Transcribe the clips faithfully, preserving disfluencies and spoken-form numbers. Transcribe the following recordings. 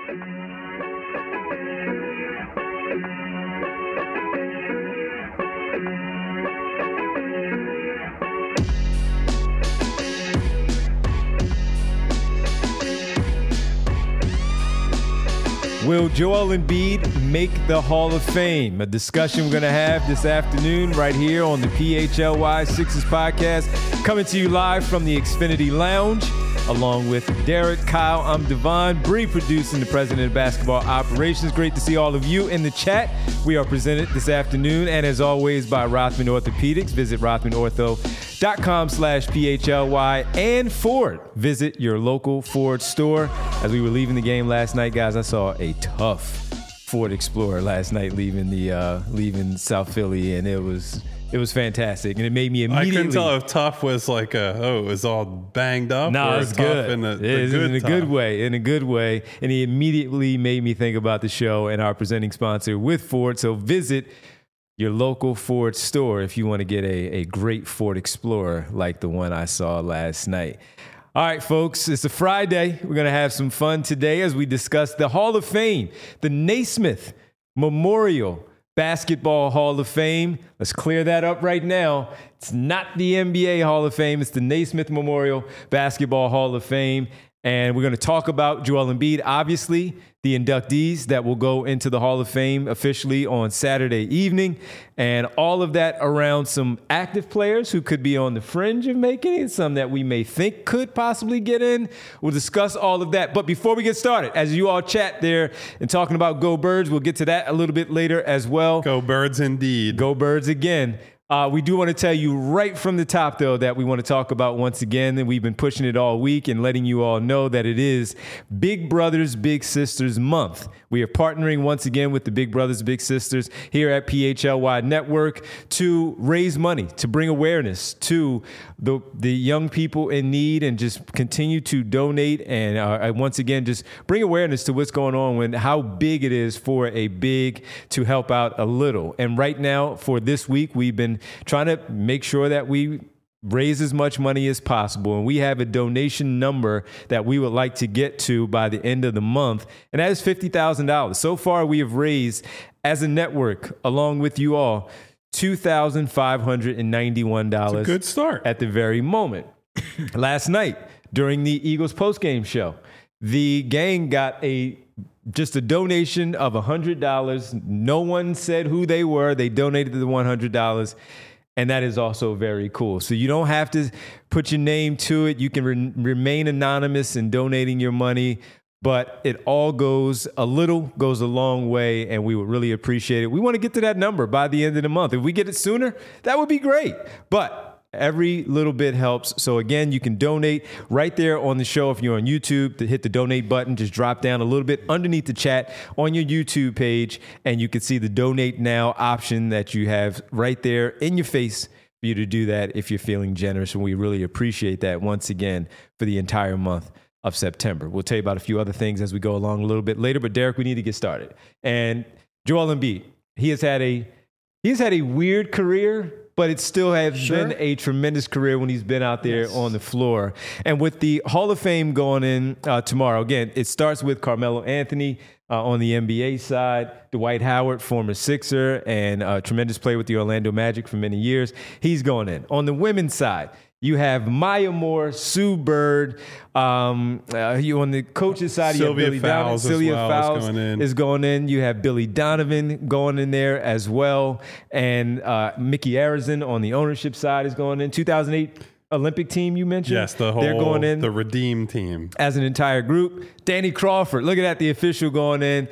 Will Joel Embiid make the Hall of Fame? A discussion we're going to have this afternoon right here on the P H L Y Sixers podcast. Coming to you live from the Xfinity Lounge, along with Derek, Kyle. I'm Devon, Bree producing, the president of basketball operations. Great to see all of you in the chat. We are presented this afternoon, and as always, by Rothman Orthopedics. Visit rothman ortho dot com slash P H L Y and Ford. Visit your local Ford store. As we were leaving the game last night, guys, I saw a tough Ford Explorer last night leaving the uh, leaving South Philly, and it was it was fantastic, and it made me immediately. I couldn't tell if tough was like a oh, it was all banged up. No, or it's tough good. In a, it is good in a tough. good way, in a good way, and he immediately made me think about the show and our presenting sponsor with Ford. So visit your local Ford store if you want to get a, a great Ford Explorer like the one I saw last night. All right, folks, it's a Friday. We're going to have some fun today as we discuss the Hall of Fame, the Naismith Memorial Basketball Hall of Fame. Let's clear that up right now. It's not the N B A Hall of Fame. It's the Naismith Memorial Basketball Hall of Fame. And we're going to talk about Joel Embiid, obviously, the inductees that will go into the Hall of Fame officially on Saturday evening, and all of that around some active players who could be on the fringe of making it, some that we may think could possibly get in. We'll discuss all of that. But before we get started, as you all chat there and talking about Go Birds, we'll get to that a little bit later as well. Go Birds indeed. Go Birds again. Uh, we do want to tell you right from the top, though, that we want to talk about once again, and we've been pushing it all week and letting you all know that it is Big Brothers Big Sisters Month. We are partnering once again with the Big Brothers Big Sisters here at P H L Y Network to raise money, to bring awareness to the the young people in need, and just continue to donate and uh, once again just bring awareness to what's going on, when how big it is for a big to help out a little. And right now, for this week, we've been trying to make sure that we raise as much money as possible. And we have a donation number that we would like to get to by the end of the month. And that is fifty thousand dollars. So far, we have raised, as a network, along with you all, two thousand five hundred ninety-one dollars. It's a good start. At the very moment. Last night, during the Eagles postgame show, the gang got a just a donation of one hundred dollars. No one said who they were. They donated the one hundred dollars. And that is also very cool. So you don't have to put your name to it. You can re- remain anonymous in donating your money. But it all goes, a little goes a long way, and we would really appreciate it. We want to get to that number by the end of the month. If we get it sooner, that would be great. But every little bit helps. So again, you can donate right there on the show. If you're on YouTube, to hit the donate button, just drop down a little bit underneath the chat on your YouTube page, and you can see the donate now option that you have right there in your face for you to do that if you're feeling generous. And we really appreciate that once again for the entire month of September. We'll tell you about a few other things as we go along a little bit later, but Derek, we need to get started. And Joel Embiid, he has had a he's had a weird career, but it still has Sure. been a tremendous career when he's been out there Yes. on the floor. And with the Hall of Fame going in uh, tomorrow, again, it starts with Carmelo Anthony uh, on the N B A side, Dwight Howard, former Sixer and a tremendous player with the Orlando Magic for many years. He's going in. On the women's side, you have Maya Moore, Sue Bird. Um, uh, you on the coach's side, Sylvia you have Billy Fowles Donovan. as Sylvia well is Fowles going in. is going in. You have Billy Donovan going in there as well, and uh, Mickey Arison on the ownership side is going in. two thousand eight Olympic team you mentioned. Yes, the whole they're going in the Redeem team as an entire group. Danny Crawford, look at that, the official going in.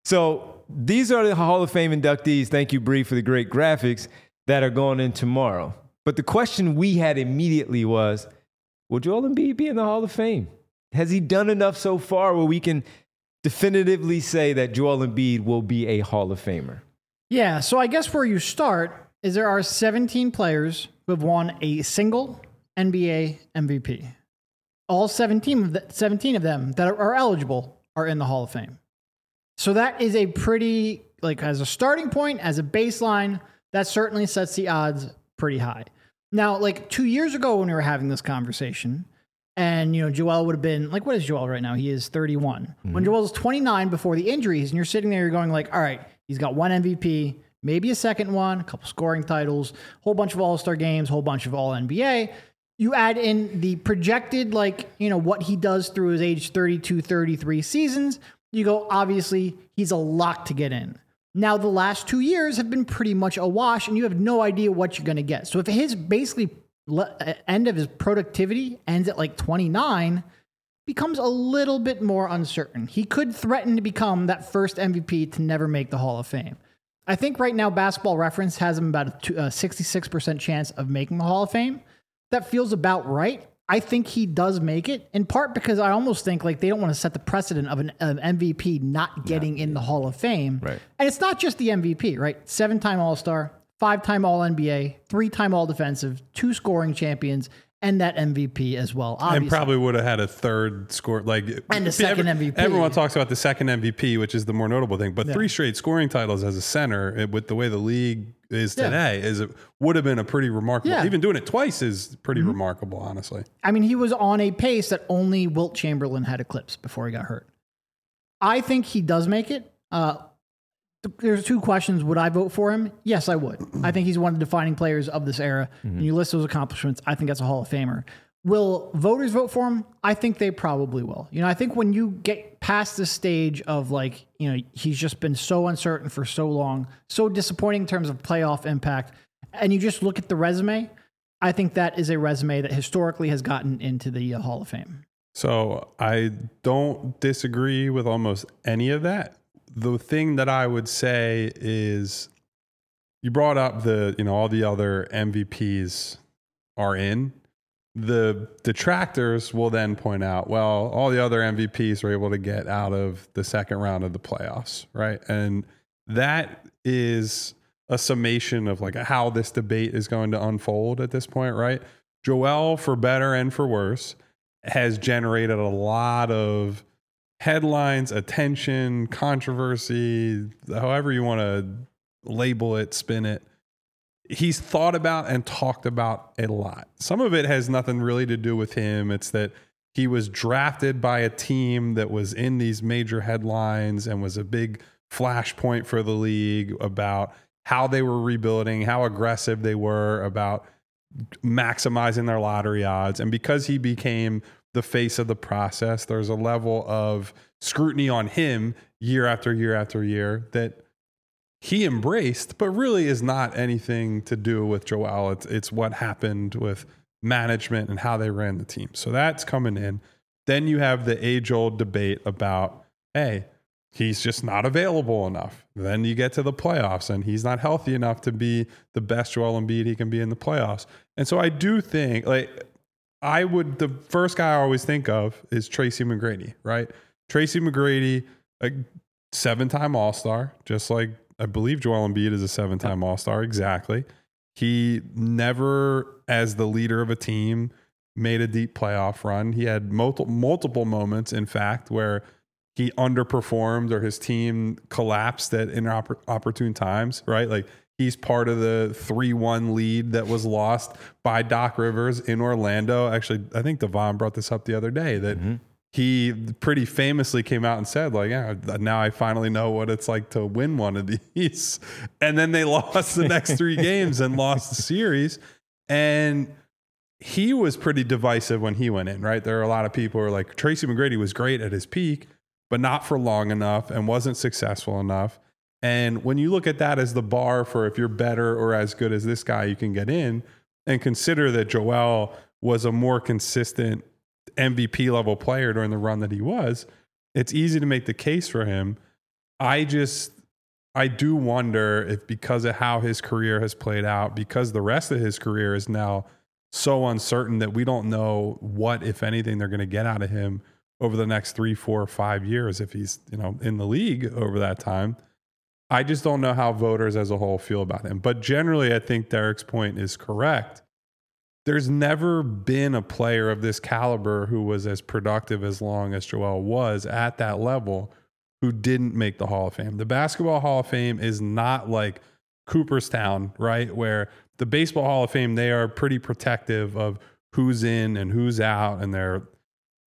So these are the Hall of Fame inductees. Thank you, Bree, for the great graphics that are going in tomorrow. But the question we had immediately was, will Joel Embiid be in the Hall of Fame? Has he done enough so far where we can definitively say that Joel Embiid will be a Hall of Famer? Yeah, so I guess where you start is there are seventeen players who have won a single N B A M V P. All seventeen of, the, seventeen of them that are, are eligible are in the Hall of Fame. So that is a pretty, like as a starting point, as a baseline, that certainly sets the odds pretty high. Now, like two years ago when we were having this conversation, And, you know, Joel would have been like, what is Joel right now? He is thirty-one. Mm-hmm. When Joel's twenty-nine before the injuries, and you're sitting there, you're going like, all right, he's got one M V P, maybe a second one, a couple scoring titles, whole bunch of All-Star games, whole bunch of All N B A. You add in the projected, like, you know, what he does through his age thirty-two, thirty-three seasons. You go, obviously, he's a lock to get in. Now, the last two years have been pretty much a wash, and you have no idea what you're going to get. So if his basically le- end of his productivity ends at like twenty-nine, becomes a little bit more uncertain. He could threaten to become that first M V P to never make the Hall of Fame. I think right now Basketball Reference has him about a, two, a sixty-six percent chance of making the Hall of Fame. That feels about right. I think he does make it, in part because I almost think like they don't want to set the precedent of an, an M V P not getting yeah. in the Hall of Fame. Right. And it's not just the M V P, right? Seven-time All-Star, five-time All N B A, three-time All-Defensive, two scoring champions, and that M V P as well. Obviously. And probably would have had a third score, like and a second every, M V P. Everyone talks about the second M V P, which is the more notable thing. But yeah. three straight scoring titles as a center, it, with the way the league is today, yeah. is it would have been a pretty remarkable. Yeah. Even doing it twice is pretty mm-hmm. remarkable, honestly. I mean, he was on a pace that only Wilt Chamberlain had eclipsed before he got hurt. I think he does make it. Uh, There's two questions. Would I vote for him? Yes, I would. I think he's one of the defining players of this era. Mm-hmm. And you list those accomplishments, I think that's a Hall of Famer. Will voters vote for him? I think they probably will. You know, I think when you get past the stage of like, you know, he's just been so uncertain for so long, so disappointing in terms of playoff impact, and you just look at the resume, I think that is a resume that historically has gotten into the uh, Hall of Fame. So I don't disagree with almost any of that. The thing that I would say is you brought up the, you know, all the other M V Ps are in. The detractors will then point out, well, all the other M V Ps are able to get out of the second round of the playoffs, right? And that is a summation of like how this debate is going to unfold at this point, right? Joel, for better and for worse, has generated a lot of headlines, attention, controversy, however you want to label it, spin it. He's thought about and talked about a lot. Some of it has nothing really to do with him. It's that he was drafted by a team that was in these major headlines and was a big flashpoint for the league about how they were rebuilding, how aggressive they were about maximizing their lottery odds. And because he became the face of the process, there's a level of scrutiny on him year after year after year that he embraced, but really is not anything to do with Joel. It's, it's what happened with management and how they ran the team. So that's coming in. Then you have the age-old debate about, hey, he's just not available enough. Then you get to the playoffs and he's not healthy enough to be the best Joel Embiid he can be in the playoffs. And so I do think, like, I would, the first guy I always think of is Tracy McGrady, right? Tracy McGrady, a seven-time All-Star, just like I believe Joel Embiid is a seven-time All-Star. Exactly. He never, as the leader of a team, made a deep playoff run. He had multiple, multiple moments, in fact, where he underperformed or his team collapsed at inopportune times, right? Like he's part of the three one lead that was lost by Doc Rivers in Orlando. Actually, I think Devon brought this up the other day that mm-hmm. he pretty famously came out and said, like, yeah, now I finally know what it's like to win one of these. And then they lost the next three games and lost the series. And he was pretty divisive when he went in, right? There are a lot of people who are like, Tracy McGrady was great at his peak, but not for long enough and wasn't successful enough. And when you look at that as the bar for if you're better or as good as this guy, you can get in, and consider that Joel was a more consistent M V P level player during the run that he was, it's easy to make the case for him. I just, I do wonder if because of how his career has played out, because the rest of his career is now so uncertain that we don't know what, if anything, they're going to get out of him over the next three, four, five years if he's, you know, in the league over that time. I just don't know how voters as a whole feel about him. But generally, I think Derek's point is correct. There's never been a player of this caliber who was as productive as long as Joel was at that level who didn't make the Hall of Fame. The Basketball Hall of Fame is not like Cooperstown, right? Where the Baseball Hall of Fame, they are pretty protective of who's in and who's out, and they're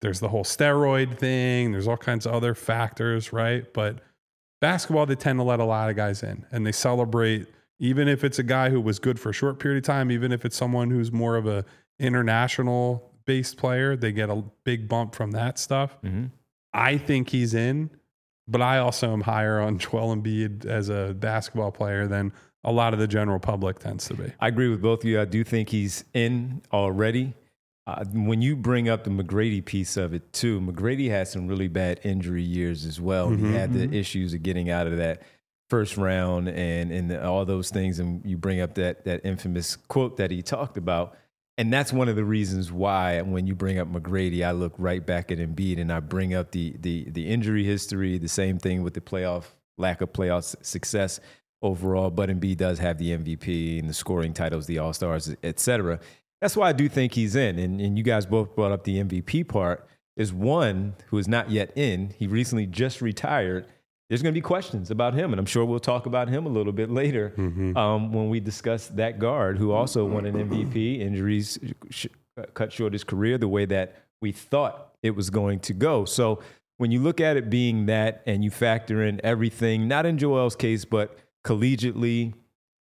there's the whole steroid thing. There's all kinds of other factors, right? But basketball, they tend to let a lot of guys in, and they celebrate, even if it's a guy who was good for a short period of time, even if it's someone who's more of a international based player, they get a big bump from that stuff. Mm-hmm. I think he's in, but I also am higher on Joel Embiid as a basketball player than a lot of the general public tends to be. I agree with both of you. I do think he's in already. Uh, when you bring up the McGrady piece of it too, McGrady had some really bad injury years as well. Mm-hmm, he had the mm-hmm. issues of getting out of that first round and and the, all those things. And you bring up that that infamous quote that he talked about. And that's one of the reasons why when you bring up McGrady, I look right back at Embiid and I bring up the the the injury history, the same thing with the playoff, lack of playoff success overall. But Embiid does have the M V P and the scoring titles, the All-Stars, et cetera. That's why I do think he's in. And, and you guys both brought up the M V P part. Is one who is not yet in. He recently just retired. There's going to be questions about him, and I'm sure we'll talk about him a little bit later Mm-hmm. um, when we discuss that guard who also won an M V P. Injuries sh- cut short his career the way that we thought it was going to go. So when you look at it being that and you factor in everything, not in Joel's case, but collegiately,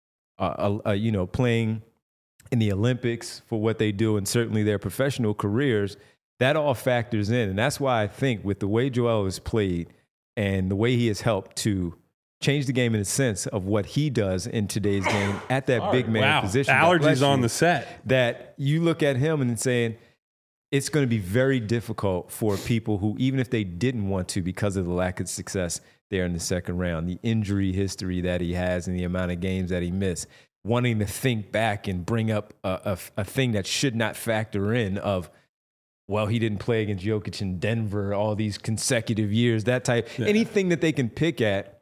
uh, uh, you know, playing in the Olympics for what they do and certainly their professional careers, that all factors in. And that's why I think with the way Joel has played and the way he has helped to change the game in the sense of what he does in today's game at that big man wow. position. Allergies on the set. That you look at him and saying, it's going to be very difficult for people who, even if they didn't want to because of the lack of success there in the second round, the injury history that he has and the amount of games that he missed, wanting to think back and bring up a, a, a thing that should not factor in of, well, he didn't play against Jokic in Denver all these consecutive years, that type, yeah. anything that they can pick at.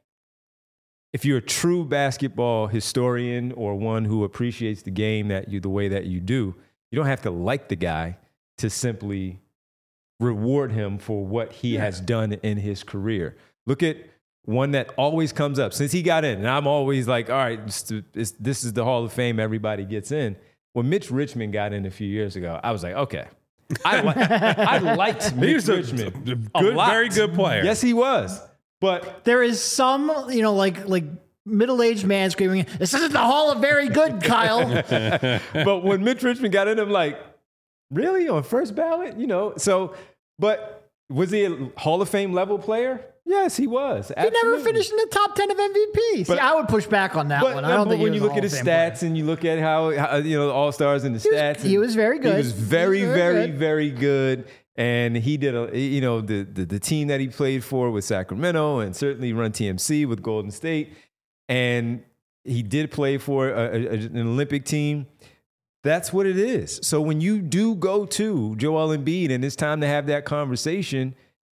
If you're a true basketball historian or one who appreciates the game that you, the way that you do, you don't have to like the guy to simply reward him for what he yeah. has done in his career. Look at one that always comes up since he got in. And I'm always like, all right, it's, it's, this is the Hall of Fame. Everybody gets in. When Mitch Richmond got in a few years ago, I was like, okay. I, li- I liked Mitch he was Richmond. A, a good, a very good player. Yes, he was. But there is some, you know, like like middle-aged man screaming, "This isn't the Hall of Very Good, Kyle." But when Mitch Richmond got in, I'm like, really? On first ballot? You know, so, but was he a Hall of Fame level player? Yes, he was. Absolutely. He never finished in the top ten of M V Ps. See, I would push back on that but, one. I don't but think when he was you look at his stats player. and you look at how, how you know, the All-Stars and the he stats. Was, he was very good. He was very, he was very, very, very, very good. And he did, a, you know, the, the the team that he played for with Sacramento and certainly run T M C with Golden State. And he did play for a, a, an Olympic team. That's what it is. So when you do go to Joel Embiid and it's time to have that conversation,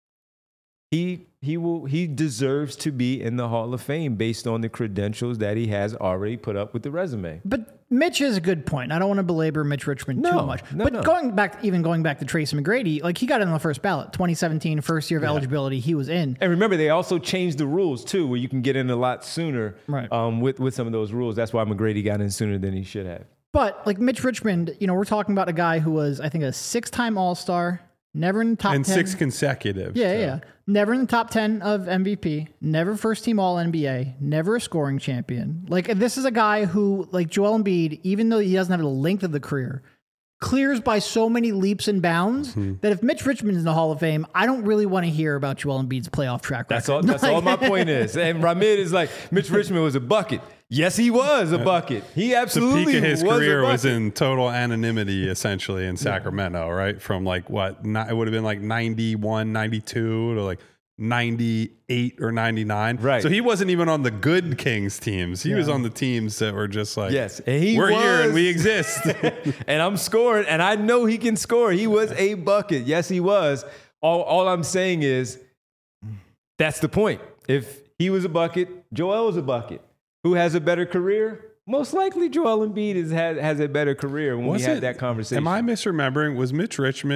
he he will he deserves to be in the Hall of Fame based on the credentials that he has already put up with the resume. But Mitch is a good point. I don't want to belabor Mitch Richmond no, too much. No, but no. going back, even going back to Tracy McGrady, like he got in on the first ballot, twenty seventeen, first year of yeah. eligibility, he was in. And remember, they also changed the rules too, where you can get in a lot sooner right. um, with with some of those rules. That's why McGrady got in sooner than he should have. But like Mitch Richmond, you know, we're talking about a guy who was, I think, a six-time All-Star, never in the top and ten. And six consecutive. Yeah, so. yeah. Never in the top ten of M V P, never first-team All N B A, never a scoring champion. Like, this is a guy who, like Joel Embiid, even though he doesn't have the length of the career, clears by so many leaps and bounds mm-hmm. that if Mitch Richmond's in the Hall of Fame, I don't really want to hear about Joel Embiid's playoff track record. That's all, that's all my point is. And Ramid is like, Mitch Richmond was a bucket. Yes, he was a bucket. He absolutely was. The peak of his was career was in total anonymity, essentially, in Sacramento, right? From like what? Not, it would have been like ninety-one, ninety-two to like ninety-eight or ninety-nine. Right. So he wasn't even on the good Kings teams. He yeah. was on the teams that were just like, yes, and he we're was, here and we exist. And I'm scoring, and I know he can score. He was a bucket. Yes, he was. All, all I'm saying is that's the point. If he was a bucket, Joel was a bucket. Who has a better career? Most likely Joel Embiid is, has, has a better career when was we had it, that conversation. Am I misremembering? Was Mitch Richmond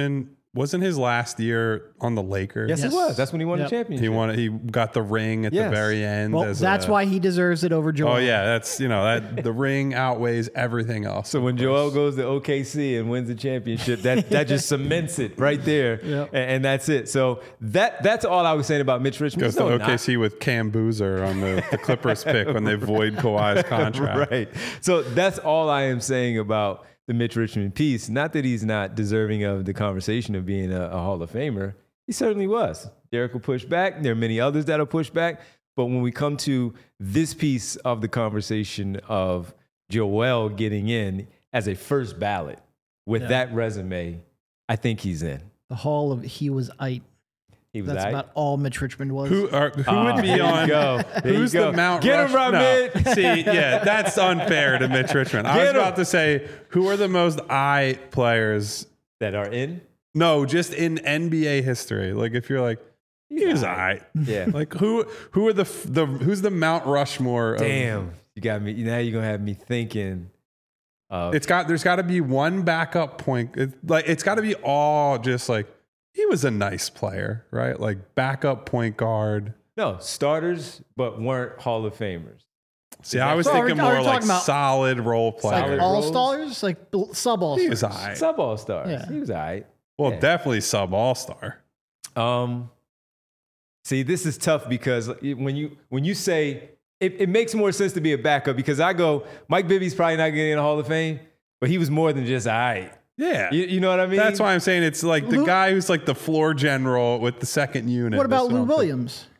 wasn't his last year on the Lakers? Yes, Yes. it was. That's when he won Yep. the championship. He won. He got the ring at Yes. the very end. Well, as that's a- why he deserves it over Joel. Oh yeah, that's you know that the ring outweighs everything else. So when Joel goes to O K C and wins the championship, that that just cements it right there, Yep. and, and that's it. So that that's all I was saying about Mitch Richmond. goes No, to O not. K C with Cam Boozer on the, the Clippers pick when they void Kawhi's contract. Right. So that's all I am saying about the Mitch Richmond piece. Not that he's not deserving of the conversation of being a, a Hall of Famer. He certainly was. Derek will push back. There are many others that will push back. But when we come to this piece of the conversation of Joel getting in as a first ballot with Yeah. that resume, I think he's in. The Hall of He Was Ite. He was That's aight. about all Mitch Richmond was. Who are who Ah, would be there you on? go. There you Who's go. the Mount Get him, Rush- right, no. Mitch. See, yeah, that's unfair to Mitch Richmond. I Get was him. about to say, who are the most I players? That are in? No, just in N B A history. Like if you're like, he's I. Yeah. Like who who are the the who's the Mount Rushmore? Of, Damn. You got me. Now you're going to have me thinking. Of, It's got there's got to be one backup point. It, like it's got to be all just like he was a nice player, right? Like backup point guard. no, starters, but weren't Hall of Famers. See, I was So are we- thinking are we more like talking about- solid role player. Solid like all roles? stars, like sub all he was stars. all right. Sub All Stars. Yeah. He was all right. Well, Yeah. definitely sub all star. Um, see, this is tough because when you when you say it, it makes more sense to be a backup because I go Mike Bibby's probably not getting in the Hall of Fame, but he was more than just all right. Yeah. You, you know what I mean? That's why I'm saying it's like the Lou- guy who's like the floor general with the second unit. What about That's Lou I'm Williams? thinking.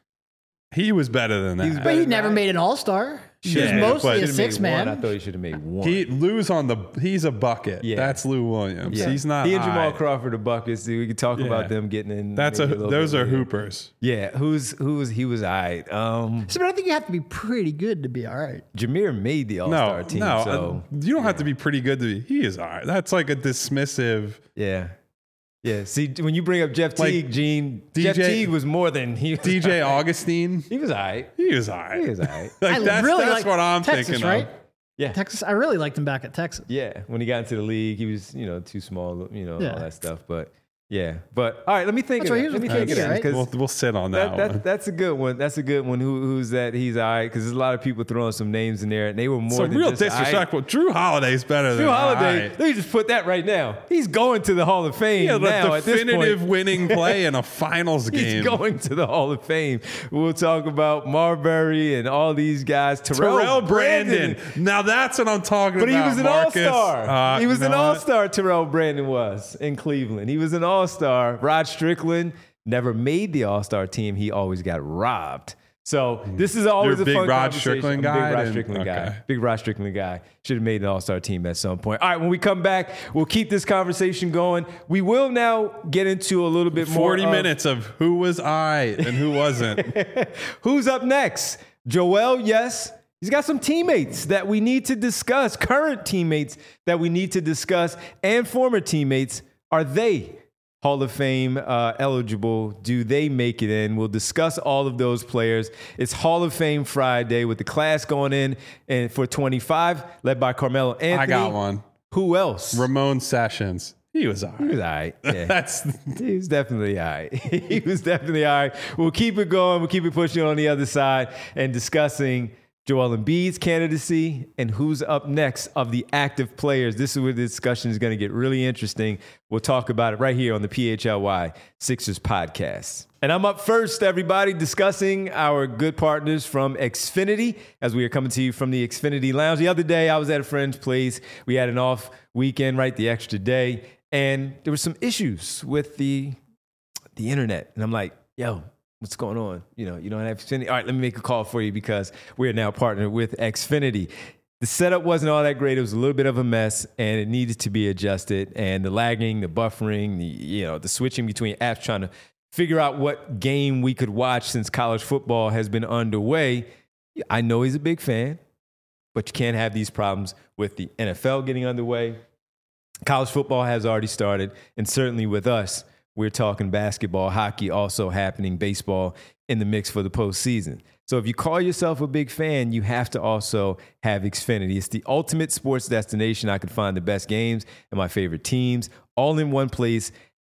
He was better than that. He's But better he than never that. made an all star. He was Yeah, mostly but- a Should've six made one. man. I thought he should have made one. He Lou's on the he's a bucket. Yeah. That's Lou Williams. Yeah. He's not He and Jamal high. Crawford are buckets. We could talk Yeah. about them getting in. That's a maybe little those bit are later. hoopers. Yeah, who's who's he was all right. Um, So, but I think you have to be pretty good to be all right. Jameer made the All Star No, team. no, so uh, you don't have to be pretty good to be. He is all right. That's like a dismissive. yeah, yeah. See, when you bring up Jeff Like, Teague, Gene, D J Jeff Teague was more than he. Was D J Augustine. He was all right. He is all right. He was all right. Like, I that's really that's like what I'm Texas, thinking right? of. Yeah. Texas. I really liked him back at Texas. Yeah, when he got into the league, he was, you know, too small, you know, Yeah. all that stuff. But yeah, but all right, let me think That's of right, that. he was Let me with think of K D, that right? because We'll, we'll sit on that, that, that, one. that's a good one. That's a good one. Who, who's that? He's all right because there's a lot of people throwing some names in there, and they were more Some than real just all right. disrespectful. Drew Holiday's better Drew than Holiday, I. let me just put that right now. He's going to the Hall of Fame Yeah, now. the At this definitive point, winning play in a finals game. he's going to the Hall of Fame. We'll talk about Marbury and all these guys. Terrell, Terrell Brandon. Now that's what I'm talking But he about. was an Marcus. all-star. Uh, he was you an know what? all-star, Terrell Brandon was in Cleveland. He was an all-star. Rod Strickland never made the all-star team. He always got robbed. So this is always You're a a big fun Rod conversation. Strickland I'm a guy? Big Rod Then- Strickland okay. guy. Big Rod Strickland guy. Should have made an all-star team at some point. All right, when we come back, we'll keep this conversation going. We will now get into a little bit more forty of minutes of who was I and who wasn't. who's up next. Joel, yes. He's got some teammates that we need to discuss, current teammates that we need to discuss, and former teammates. Are they Hall of Fame uh, eligible? Do they make it in? We'll discuss all of those players. It's Hall of Fame Friday with the class going in and for twenty-five, led by Carmelo Anthony. I got one. Who else? Ramon Sessions. He was all He was right. all right. Yeah. That's He was definitely all right. He was definitely all right. We'll keep it going. We'll keep it pushing on the other side and discussing Joel Embiid's candidacy and who's up next of the active players. This is where the discussion is going to get really interesting. We'll talk about it right here on the P H L Y Sixers podcast. And I'm up first, everybody, discussing our good partners from Xfinity as we are coming to you from the Xfinity Lounge. The other day, I was at a friend's place. We had an off weekend, right, the extra day, and there were some issues with the the internet. And I'm like, yo, what's going on? You know, you don't have Xfinity. All right, let me make a call for you because we're now partnered with Xfinity. The setup wasn't all that great. It was a little bit of a mess, and it needed to be adjusted. And the lagging, the buffering, the you know, the switching between apps, trying to figure out what game we could watch since college football has been underway. I know he's a big fan, but you can't have these problems with the N F L getting underway. College football has already started, and certainly with us, we're talking basketball, hockey also happening, baseball in the mix for the postseason. So if you call yourself a big fan, you have to also have Xfinity. It's the ultimate sports destination. I can find the best games and my favorite teams all in one place.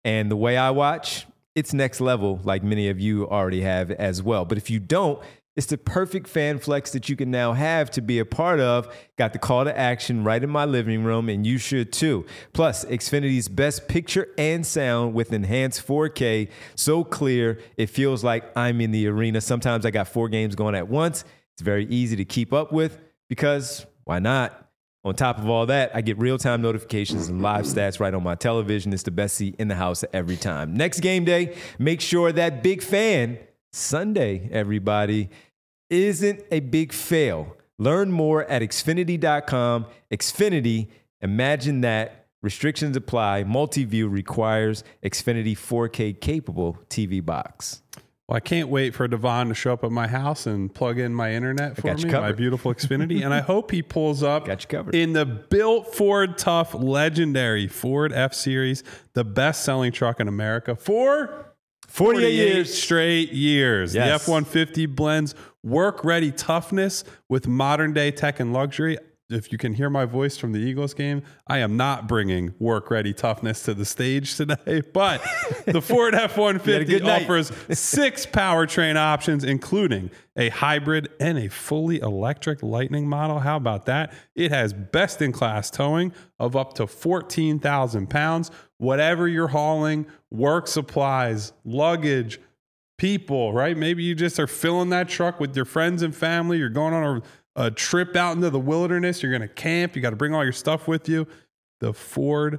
And the way I watch, it's next level, like many of you already have as well. But if you don't, it's the perfect fan flex that you can now have to be a part of. Got the call to action right in my living room, and you should too. Plus, Xfinity's best picture and sound with enhanced four K, so clear it feels like I'm in the arena. Sometimes I got four games going at once. It's very easy to keep up with because why not? On top of all that, I get real-time notifications and live stats right on my television. It's the best seat in the house every time. Next game day, make sure that big fan, Sunday, everybody, isn't a big fail. Learn more at Xfinity dot com. Xfinity, imagine that. Restrictions apply. Multi-view requires Xfinity four K capable T V box. Well, I can't wait for Devon to show up at my house and plug in my internet for me, my beautiful Xfinity. And I hope he pulls up got you covered. in the built Ford Tough legendary Ford F-Series, the best-selling truck in America for forty-eight years. Straight years. Yes. The F one fifty blends work-ready toughness with modern-day tech and luxury. If you can hear my voice from the Eagles game, I am not bringing work-ready toughness to the stage today, but the Ford F one fifty offers six powertrain options, including a hybrid and a fully electric Lightning model. How about that? It has best-in-class towing of up to fourteen thousand pounds. Whatever you're hauling, work supplies, luggage, people, right? Maybe you just are filling that truck with your friends and family. You're going on a A trip out into the wilderness. You're going to camp. You got to bring all your stuff with you. The Ford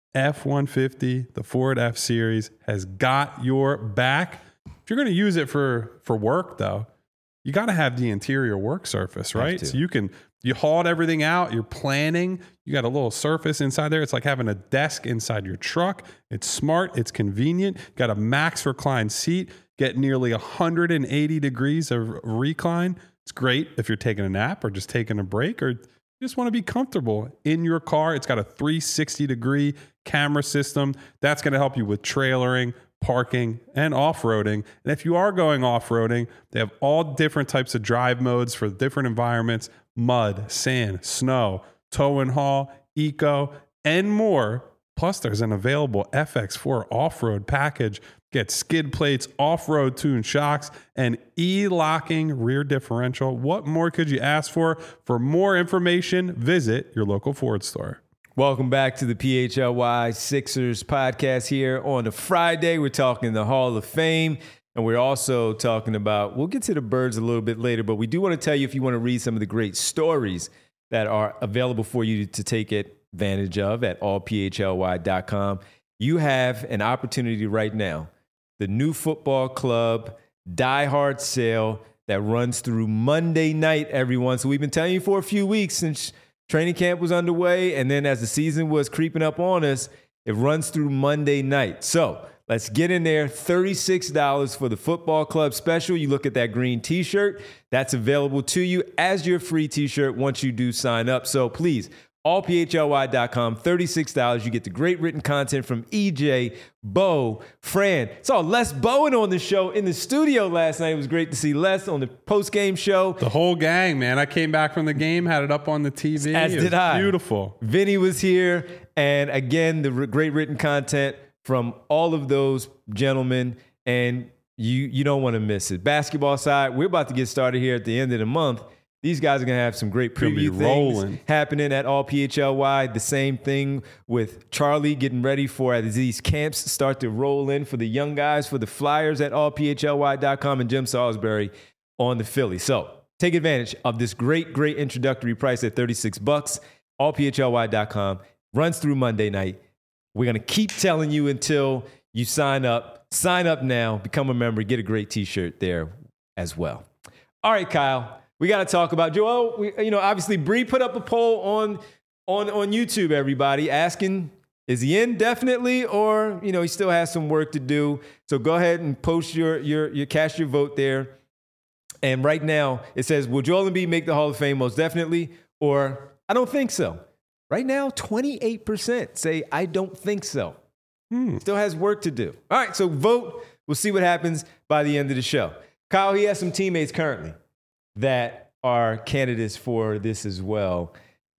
F one fifty, the Ford F-Series has got your back. If you're going to use it for, for work, though, you got to have the interior work surface, right? So you can, you hauled everything out. You're planning. You got a little surface inside there. It's like having a desk inside your truck. It's smart. It's convenient. Got a max recline seat. Get nearly one hundred eighty degrees of recline. It's great if you're taking a nap or just taking a break or you just want to be comfortable in your car. It's got a three sixty degree camera system. That's going to help you with trailering, parking, and off-roading. And if you are going off-roading, they have all different types of drive modes for different environments: mud, sand, snow, tow and haul, eco, and more. Plus, there's an available F X four off-road package. Get skid plates, off-road tuned shocks, and e-locking rear differential. What more could you ask for? For more information, visit your local Ford store. Welcome back to the P H L Y Sixers podcast here on a Friday. We're talking the Hall of Fame, and we're also talking about, we'll get to the birds a little bit later, but we do want to tell you if you want to read some of the great stories that are available for you to take advantage of at all P H L Y dot com, you have an opportunity right now. The New Football Club Die Hard sale that runs through Monday night, everyone. So we've been telling you for a few weeks since training camp was underway, and then as the season was creeping up on us, it runs through Monday night. So let's get in there. thirty-six dollars for the Football Club special. You look at that green T-shirt. That's available to you as your free T-shirt once you do sign up. So please, all P H L Y dot com, thirty-six dollars. You get the great written content from E J, Bo, Fran. Saw Les Bowen on the show in the studio last night. It was great to see Les on the post-game show. The whole gang, man. I came back from the game, had it up on the T V. As it did was I. Beautiful. Vinny was here. And again, the re- great written content from all of those gentlemen. And you, you don't want to miss it. Basketball side, we're about to get started here at the end of the month. These guys are going to have some great preview things rolling. happening at all P H L Y. The same thing with Charlie getting ready for as these camps start to roll in for the young guys, for the Flyers at all P H L Y dot com, and Jim Salisbury on the Philly. So take advantage of this great, great introductory price at thirty-six bucks. all P H L Y dot com runs through Monday night. We're going to keep telling you until you sign up. Sign up now, become a member, get a great T-shirt there as well. All right, Kyle. We got to talk about Joel. We, you know, obviously, Bree put up a poll on on on YouTube. Everybody asking, is he in definitely, or you know, he still has some work to do. So go ahead and post your your your cast your vote there. And right now, it says, will Joel Embiid make the Hall of Fame? Most definitely, or I don't think so. Right now, twenty-eight percent say I don't think so. Hmm. Still has work to do. All right, so vote. We'll see what happens by the end of the show. Kyle, he has some teammates currently that are candidates for this as well.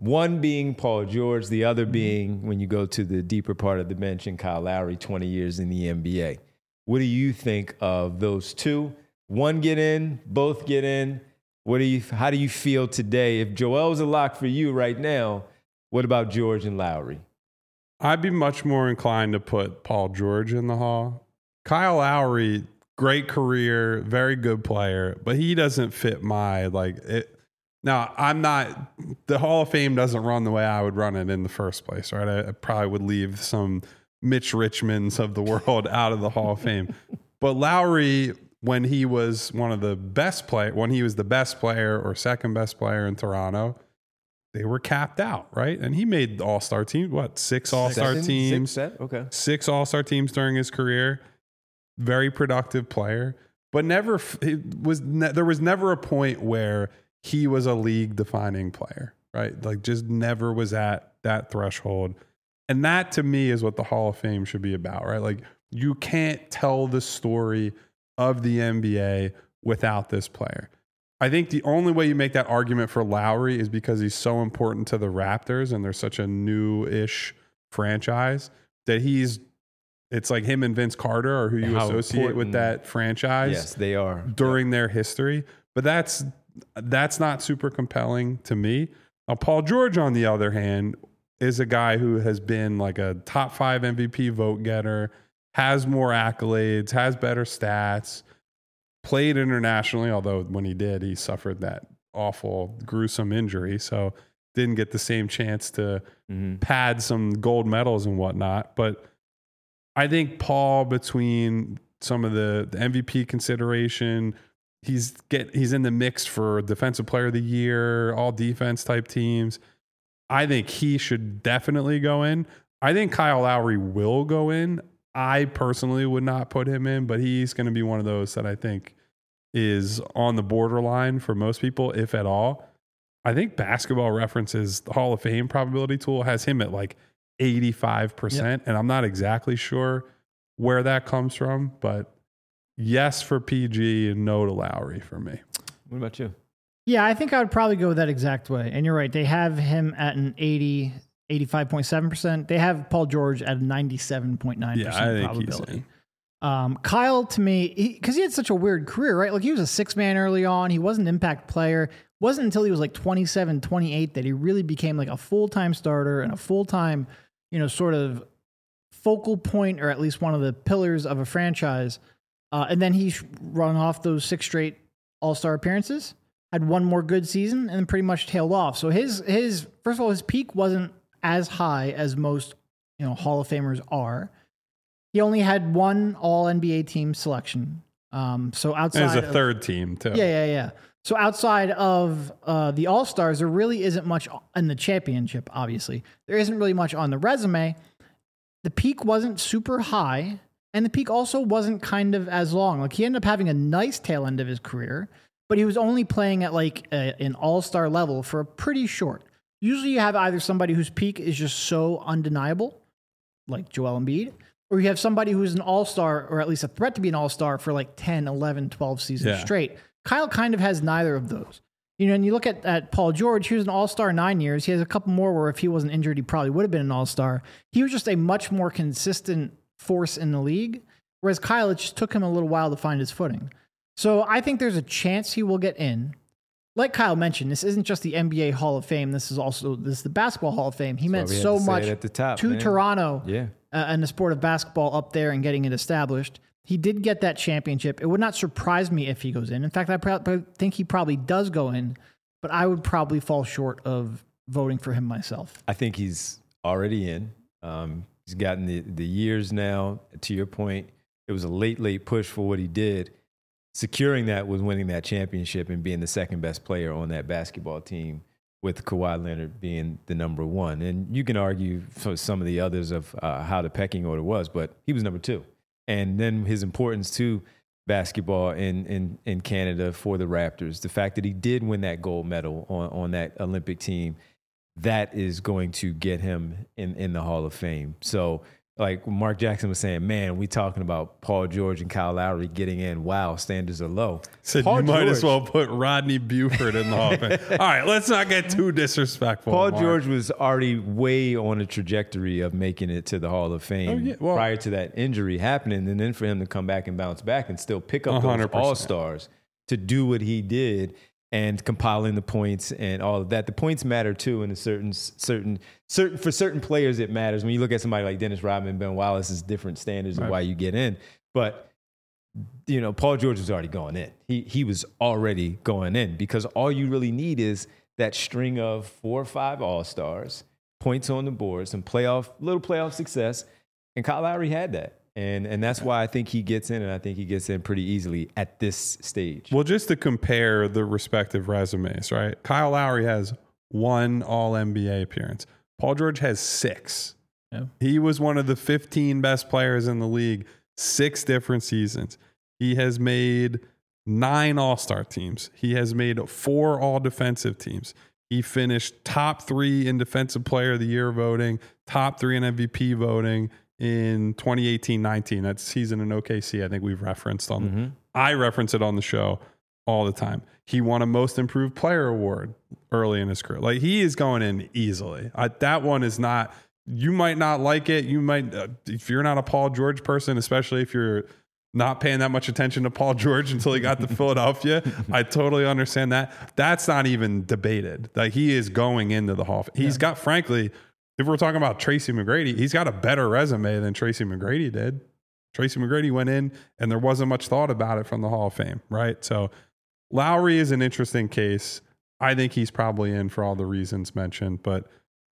One being Paul George, the other being, when you go to the deeper part of the bench, and Kyle Lowry, twenty years in the N B A. What do you think of those two? One get in, both get in. What do you? How do you feel today? If Joel's a lock for you right now, what about George and Lowry? I'd be much more inclined to put Paul George in the Hall. Kyle Lowry, great career, very good player, but he doesn't fit my, like, it. Now, I'm not, the Hall of Fame doesn't run the way I would run it in the first place, right? I, I probably would leave some Mitch Richmonds of the world out of the Hall of Fame. But Lowry, when he was one of the best play, when he was the best player or second best player in Toronto, they were capped out, right? And he made the All-Star team, what, six All-Star Six, teams? Six, okay. Six All-Star teams during his career. Very productive player, but never, it was, ne- there was never a point where he was a league-defining player, right? Like, just never was at that threshold. And that, to me, is what the Hall of Fame should be about, right? Like, you can't tell the story of the N B A without this player. I think the only way you make that argument for Lowry is because he's so important to the Raptors and they're such a new-ish franchise that he's, it's like him and Vince Carter are who you How associate important. with that franchise. Yes, they are. During their history. But that's that's not super compelling to me. Now, Paul George, on the other hand, is a guy who has been like a top five M V P vote getter, has more accolades, has better stats, played internationally, although when he did, he suffered that awful, gruesome injury. So didn't get the same chance to Mm-hmm. pad some gold medals and whatnot. But I think Paul, between some of the, the M V P consideration, he's get he's in the mix for Defensive Player of the Year, all defense type teams. I think he should definitely go in. I think Kyle Lowry will go in. I personally would not put him in, but he's going to be one of those that I think is on the borderline for most people, if at all. I think Basketball Reference's Hall of Fame probability tool has him at like eighty-five percent, yep. And I'm not exactly sure where that comes from, but yes for P G and no to Lowry for me. What about you? Yeah, I think I would probably go that exact way. And you're right. They have him at an eighty, eighty-five point seven percent. They have Paul George at a ninety-seven point nine percent yeah, I think probability. He's in. Um, Kyle, to me, because he, he had such a weird career, right? Like he was a six man early on. He was an impact player. Wasn't until he was like twenty-seven, twenty-eight that he really became like a full-time starter and a full-time, you know, sort of focal point, or at least one of the pillars of a franchise. Uh, and then he run off those six straight All-Star appearances, had one more good season, and then pretty much tailed off. So his his first of all, his peak wasn't as high as most, you know, Hall of Famers are. He only had one All N B A team selection. Um, so outside, and it's a of, third team too. Yeah, yeah, yeah. So outside of uh, the All Stars, there really isn't much in the championship. Obviously, there isn't really much on the resume. The peak wasn't super high, and the peak also wasn't kind of as long. Like he ended up having a nice tail end of his career, but he was only playing at like a, an all-star level for a pretty short. Usually you have either somebody whose peak is just so undeniable, like Joel Embiid, or you have somebody who's an all-star, or at least a threat to be an all-star for like ten, eleven, twelve seasons yeah. straight. Kyle kind of has neither of those. You know, and you look at, at Paul George, he was an all-star nine years. He has a couple more where if he wasn't injured, he probably would have been an all-star. He was just a much more consistent force in the league, whereas Kyle, it just took him a little while to find his footing. So I think there's a chance he will get in. Like Kyle mentioned, this isn't just the N B A Hall of Fame. This is also this is the Basketball Hall of Fame. He That's meant why we had so to say much it at the top, to man. Toronto Yeah. uh, and the sport of basketball up there and getting it established. He did get that championship. It would not surprise me if he goes in. In fact, I pro- think he probably does go in, but I would probably fall short of voting for him myself. I think he's already in. Um, he's gotten the, the years now. To your point, it was a late, late push for what he did. Securing that was winning that championship and being the second best player on that basketball team, with Kawhi Leonard being the number one. And you can argue for some of the others of uh, how the pecking order was, but he was number two. And then his importance to basketball in, in, in Canada for the Raptors, the fact that he did win that gold medal on, on that Olympic team, that is going to get him in, in the Hall of Fame. So like Mark Jackson was saying, man, we talking about Paul George and Kyle Lowry getting in. Wow, standards are low. Said Paul you might George, as well put Rodney Buford in the Hall of Fame. All right, let's not get too disrespectful. Paul Mark. George was already way on a trajectory of making it to the Hall of Fame Oh, yeah. Well, prior to that injury happening, and then for him to come back and bounce back and still pick up one hundred those percent. all-stars to do what he did and compiling the points and all of that. The points matter too in a certain certain certain for certain players it matters. When you look at somebody like Dennis Rodman, Ben Wallace, is different standards Right. of why you get in. But you know, Paul George was already going in. He he was already going in because all you really need is that string of four or five all-stars, points on the board, some playoff little playoff success, and Kyle Lowry had that. And and that's why I think he gets in, and I think he gets in pretty easily at this stage. Well, just to compare the respective resumes, right? Kyle Lowry has one All N B A appearance. Paul George has six. Yeah. He was one of the fifteen best players in the league, six different seasons. He has made nine All-Star teams. He has made four All-Defensive teams. He finished top three in Defensive Player of the Year voting, top three in M V P voting in twenty eighteen nineteen. That season in O K C, I think we've referenced on. Mm-hmm. I reference it on the show all the time. He won a Most Improved Player award early in his career. Like, he is going in easily. I, that one is not. You might not like it. You might, uh, if you're not a Paul George person, especially if you're not paying that much attention to Paul George until he got to Philadelphia. I totally understand that. That's not even debated. Like, he is going into the Hall of Fame. He's yeah. got, frankly, if we're talking about Tracy McGrady, he's got a better resume than Tracy McGrady did. Tracy McGrady went in and there wasn't much thought about it from the Hall of Fame, right? So Lowry is an interesting case. I think he's probably in for all the reasons mentioned, but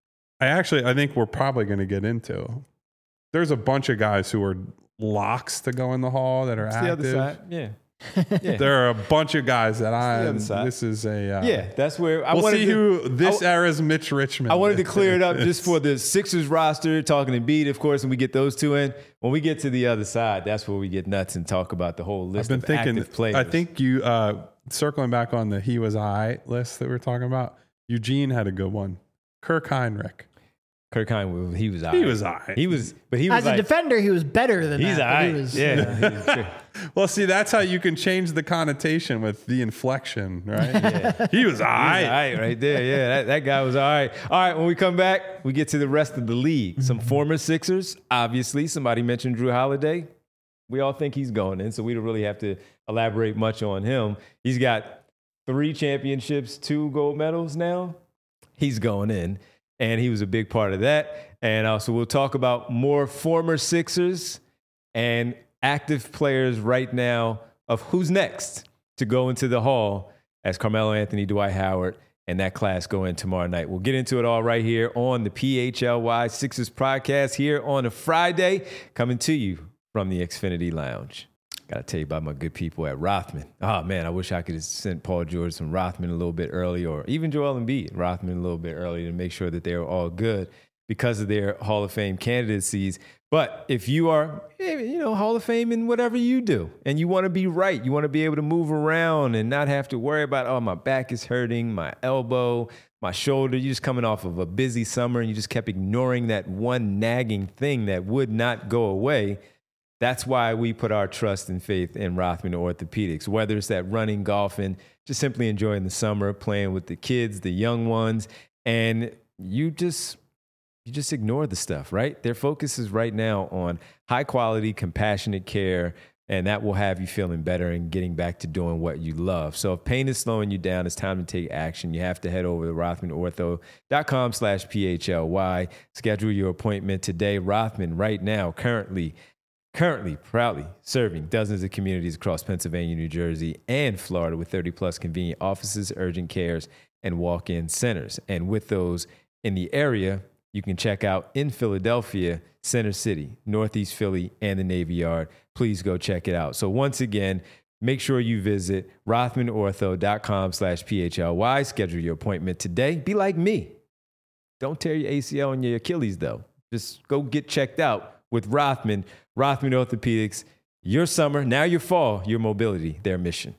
I actually, I think we're probably going to get into, there's a bunch of guys who are locks to go in the Hall that are It's active. the other side, yeah. yeah. There are a bunch of guys that I'm. side. This is a. Uh, Yeah, that's where I we'll wanted see to, who this I, era's Mitch Richmond. I wanted to is. clear it up just for the Sixers roster, talking to Embiid, of course, and we get those two in. When we get to the other side, that's where we get nuts and talk about the whole list I've been of thinking. active players. I think you uh, circling back on the he was I list that we we're talking about. Eugene had a good one. Kirk Heinrich. Kirk Heinrich, he was all He right. was all right. He was, but he was As like, a defender, he was better than he's that. all but he right. was- Yeah. Well, see, that's how you can change the connotation with the inflection, right? Yeah. He was all All right. right, right there. Yeah, that, that guy was all right. All right, when we come back, we get to the rest of the league. Some former Sixers, obviously. Somebody mentioned Drew Holiday. We all think he's going in, so we don't really have to elaborate much on him. He's got three championships, two gold medals now. He's going in, and he was a big part of that. And also, we'll talk about more former Sixers and active players right now of who's next to go into the Hall as Carmelo Anthony, Dwight Howard, and that class go in tomorrow night. We'll get into it all right here on the P H L Y Sixers podcast here on a Friday, coming to you from the Xfinity Lounge. Got to tell you about my good people at Rothman. Oh, man, I wish I could have sent Paul George some Rothman a little bit early, or even Joel Embiid, Rothman a little bit early to make sure that they were all good because of their Hall of Fame candidacies. But if you are, you know, Hall of Fame in whatever you do, and you want to be right, you want to be able to move around and not have to worry about, oh, my back is hurting, my elbow, my shoulder. You're just coming off of a busy summer and you just kept ignoring that one nagging thing that would not go away. That's why we put our trust and faith in Rothman Orthopedics, whether it's that running, golfing, just simply enjoying the summer, playing with the kids, the young ones, and you just you just ignore the stuff, right? Their focus is right now on high quality, compassionate care, and that will have you feeling better and getting back to doing what you love. So if pain is slowing you down, it's time to take action. You have to head over to rothman ortho dot com slash P H L Y. Schedule your appointment today. Rothman right now, currently, Currently, proudly serving dozens of communities across Pennsylvania, New Jersey, and Florida with thirty plus convenient offices, urgent cares, and walk-in centers. And with those in the area, you can check out in Philadelphia, Center City, Northeast Philly, and the Navy Yard. Please go check it out. So once again, make sure you visit rothman ortho dot com slash P H L Y. Schedule your appointment today. Be like me. Don't tear your A C L and your Achilles, though. Just go get checked out with Rothman. Rothman Orthopedics, your summer, now your fall, your mobility, their mission.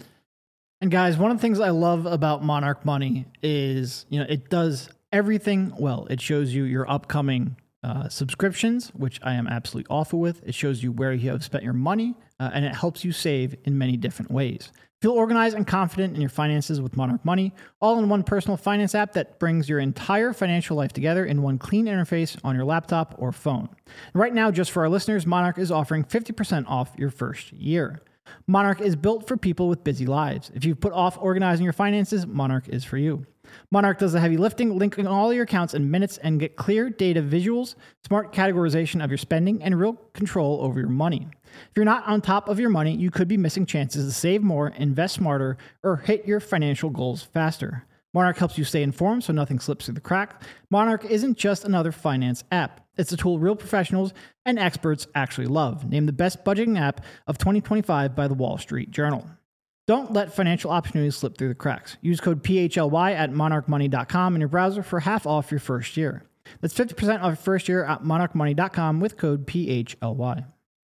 And guys, one of the things I love about Monarch Money is, you know, it does everything well. It shows you your upcoming uh, subscriptions, which I am absolutely awful with. It shows you where you have spent your money, uh, and it helps you save in many different ways. Feel organized and confident in your finances with Monarch Money, all in one personal finance app that brings your entire financial life together in one clean interface on your laptop or phone. And right now, just for our listeners, Monarch is offering fifty percent off your first year. Monarch is built for people with busy lives. If you've put off organizing your finances, Monarch is for you. Monarch does the heavy lifting, linking all your accounts in minutes and get clear data visuals, smart categorization of your spending, and real control over your money. If you're not on top of your money, you could be missing chances to save more, invest smarter, or hit your financial goals faster. Monarch helps you stay informed so nothing slips through the crack. Monarch isn't just another finance app. It's a tool real professionals and experts actually love. Named the best budgeting app of twenty twenty-five by the Wall Street Journal. Don't let financial opportunities slip through the cracks. Use code P H L Y at monarch money dot com in your browser for half off your first year. That's fifty percent off your first year at monarch money dot com with code P H L Y.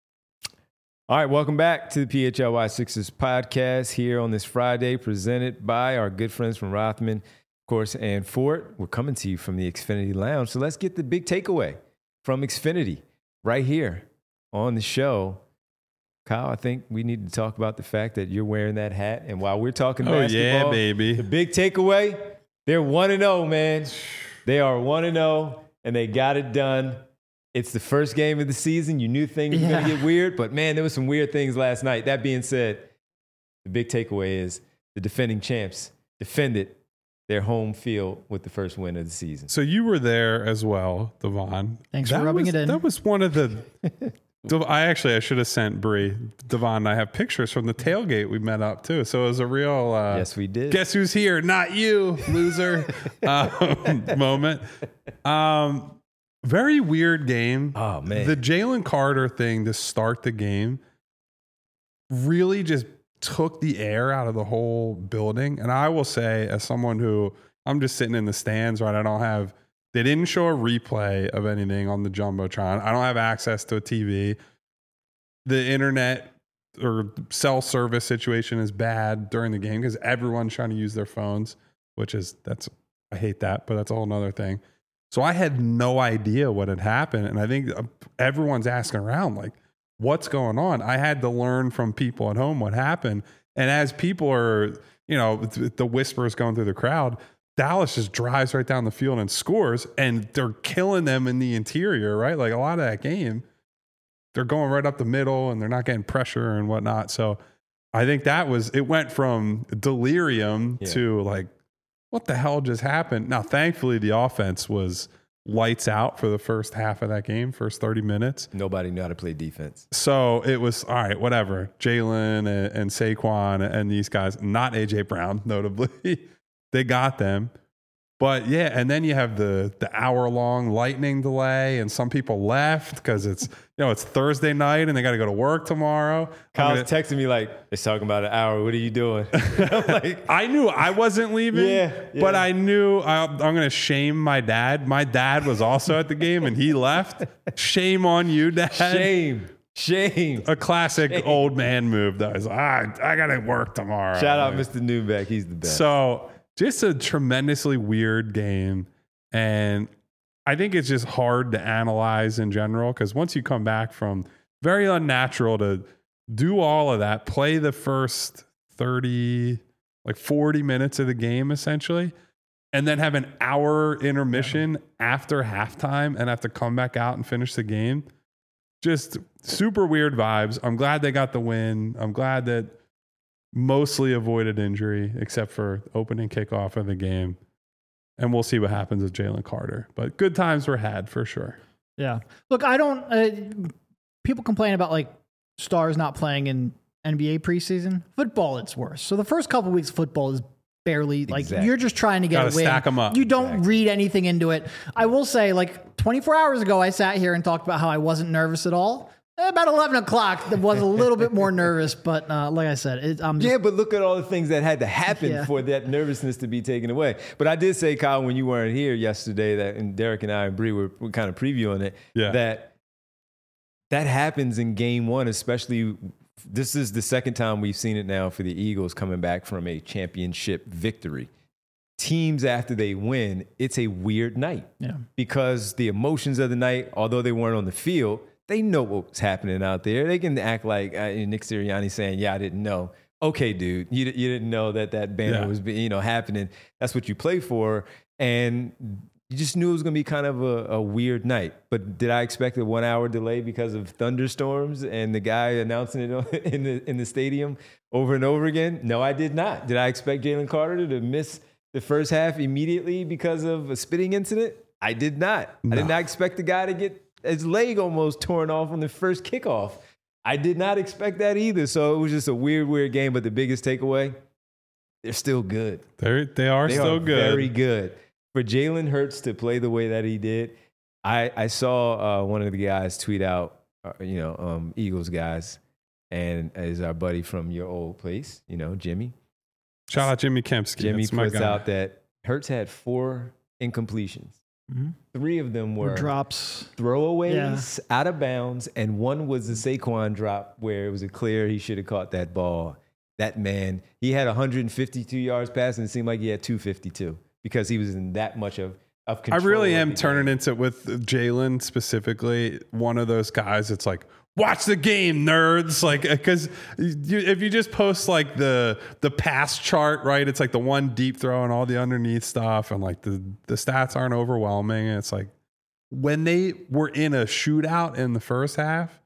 All right, welcome back to the P H L Y Sixers podcast here on this Friday, presented by our good friends from Rothman, of course, and Fort. We're coming to you from the Xfinity Lounge. So let's get the big takeaway from Xfinity right here on the show. Kyle, I think we need to talk about the fact that you're wearing that hat. And while we're talking Oh, basketball, yeah, baby. the big takeaway, they're one and oh, man. They are one and oh, and they got it done. It's the first game of the season. You knew things were Yeah. going to get weird, but man, there was some weird things last night. That being said, the big takeaway is the defending champs defended their home field with the first win of the season. So you were there as well, Devon. Thanks for That rubbing was- it in. That was one of the. Dev- I actually I should have sent Bree, Devon, and I have pictures from the tailgate we met up too. So it was a real. Uh, Yes, we did. Guess who's here? Not you, loser. um, moment. Um, very weird game. Oh, man. The Jalen Carter thing to start the game really just took the air out of the whole building. And I will say, as someone who I'm just sitting in the stands, right? I don't have, they didn't show a replay of anything on the Jumbotron. I don't have access to a T V. The internet or cell service situation is bad during the game because everyone's trying to use their phones, which is, that's, I hate that, but that's a whole nother thing. So I had no idea what had happened. And I think everyone's asking around, like, what's going on? I had to learn from people at home what happened. And as people are, you know, the whispers going through the crowd, Dallas just drives right down the field and scores, and they're killing them in the interior, right? Like a lot of that game, they're going right up the middle and they're not getting pressure and whatnot. So I think that was, it went from delirium Yeah. to like, what the hell just happened? Now, thankfully, the offense was lights out for the first half of that game, first thirty minutes. Nobody knew how to play defense. So it was, all right, whatever. Jalen and, and Saquon and these guys, not A J Brown, notably, they got them. But yeah, and then you have the the hour long lightning delay, and some people left because it's, you know, it's Thursday night and they got to go to work tomorrow. Kyle's I'm gonna- texting me like, it's talking about an hour. What are you doing? I'm like, I knew I wasn't leaving, Yeah, but yeah. I knew I, I'm going to shame my dad. My dad was also at the game and he left. Shame on you, Dad. shame, shame. A classic old man move. That was, ah, I got to work tomorrow. Shout out Mister Newbeck. He's the best. So just a tremendously weird game. And I think it's just hard to analyze in general because once you come back from very unnatural to do all of that, play the first thirty, like forty minutes of the game essentially, and then have an hour intermission after halftime and have to come back out and finish the game. Just super weird vibes. I'm glad they got the win. I'm glad that mostly avoided injury except for opening kickoff of the game. And we'll see what happens with Jalen Carter. But good times were had for sure. Yeah. Look, I don't. Uh, people complain about like stars not playing in N B A preseason. Football, it's worse. So the first couple weeks, of football is barely like Exactly. you're just trying to get Gotta a win. stack 'em up. You don't Exactly. read anything into it. I will say, like twenty-four hours ago, I sat here and talked about how I wasn't nervous at all. About eleven o'clock, I was a little bit more nervous, but uh, like I said, it, I'm just Yeah, but look at all the things that had to happen Yeah. for that nervousness to be taken away. But I did say, Kyle, when you weren't here yesterday, that and Derek and I and Bree were, were kind of previewing it, Yeah. that that happens in game one, especially. This is the second time we've seen it now for the Eagles coming back from a championship victory. teams after they win, it's a weird night. Yeah. Because the emotions of the night, although they weren't on the field, they know what's happening out there. They can act like uh, Nick Sirianni saying, yeah, I didn't know. Okay, dude, you, you didn't know that that banner Yeah. was you know happening. That's what you play for. And you just knew it was going to be kind of a, a weird night. But did I expect a one-hour delay because of thunderstorms and the guy announcing it in the in the stadium over and over again? No, I did not. Did I expect Jalen Carter to miss the first half immediately because of a spitting incident? I did not. No. I did not expect the guy to get his leg almost torn off on the first kickoff. I did not expect that either. So it was just a weird, weird game. But the biggest takeaway, they're still good. They're, they are They still are good. very good. For Jalen Hurts to play the way that he did, I, I saw uh, one of the guys tweet out, uh, you know, um, Eagles guys, and is our buddy from your old place, you know, Jimmy. Shout out Jimmy Kempski. Jimmy That's my puts guy. out that Hurts had four incompletions. Mhm. Three of them were Or drops. throwaways, out of bounds, and one was the Saquon drop where it was a clear he should have caught that ball. That man, he had one hundred fifty-two yards passing. It seemed like he had two fifty-two because he was in that much of, of I control. really of am the turning game. into, with Jalen specifically, one of those guys that's like, watch the game, nerds. Like, because you, if you just post like the the pass chart, right? It's like the one deep throw and all the underneath stuff, and like the the stats aren't overwhelming. And it's like when they were in a shootout in the first half,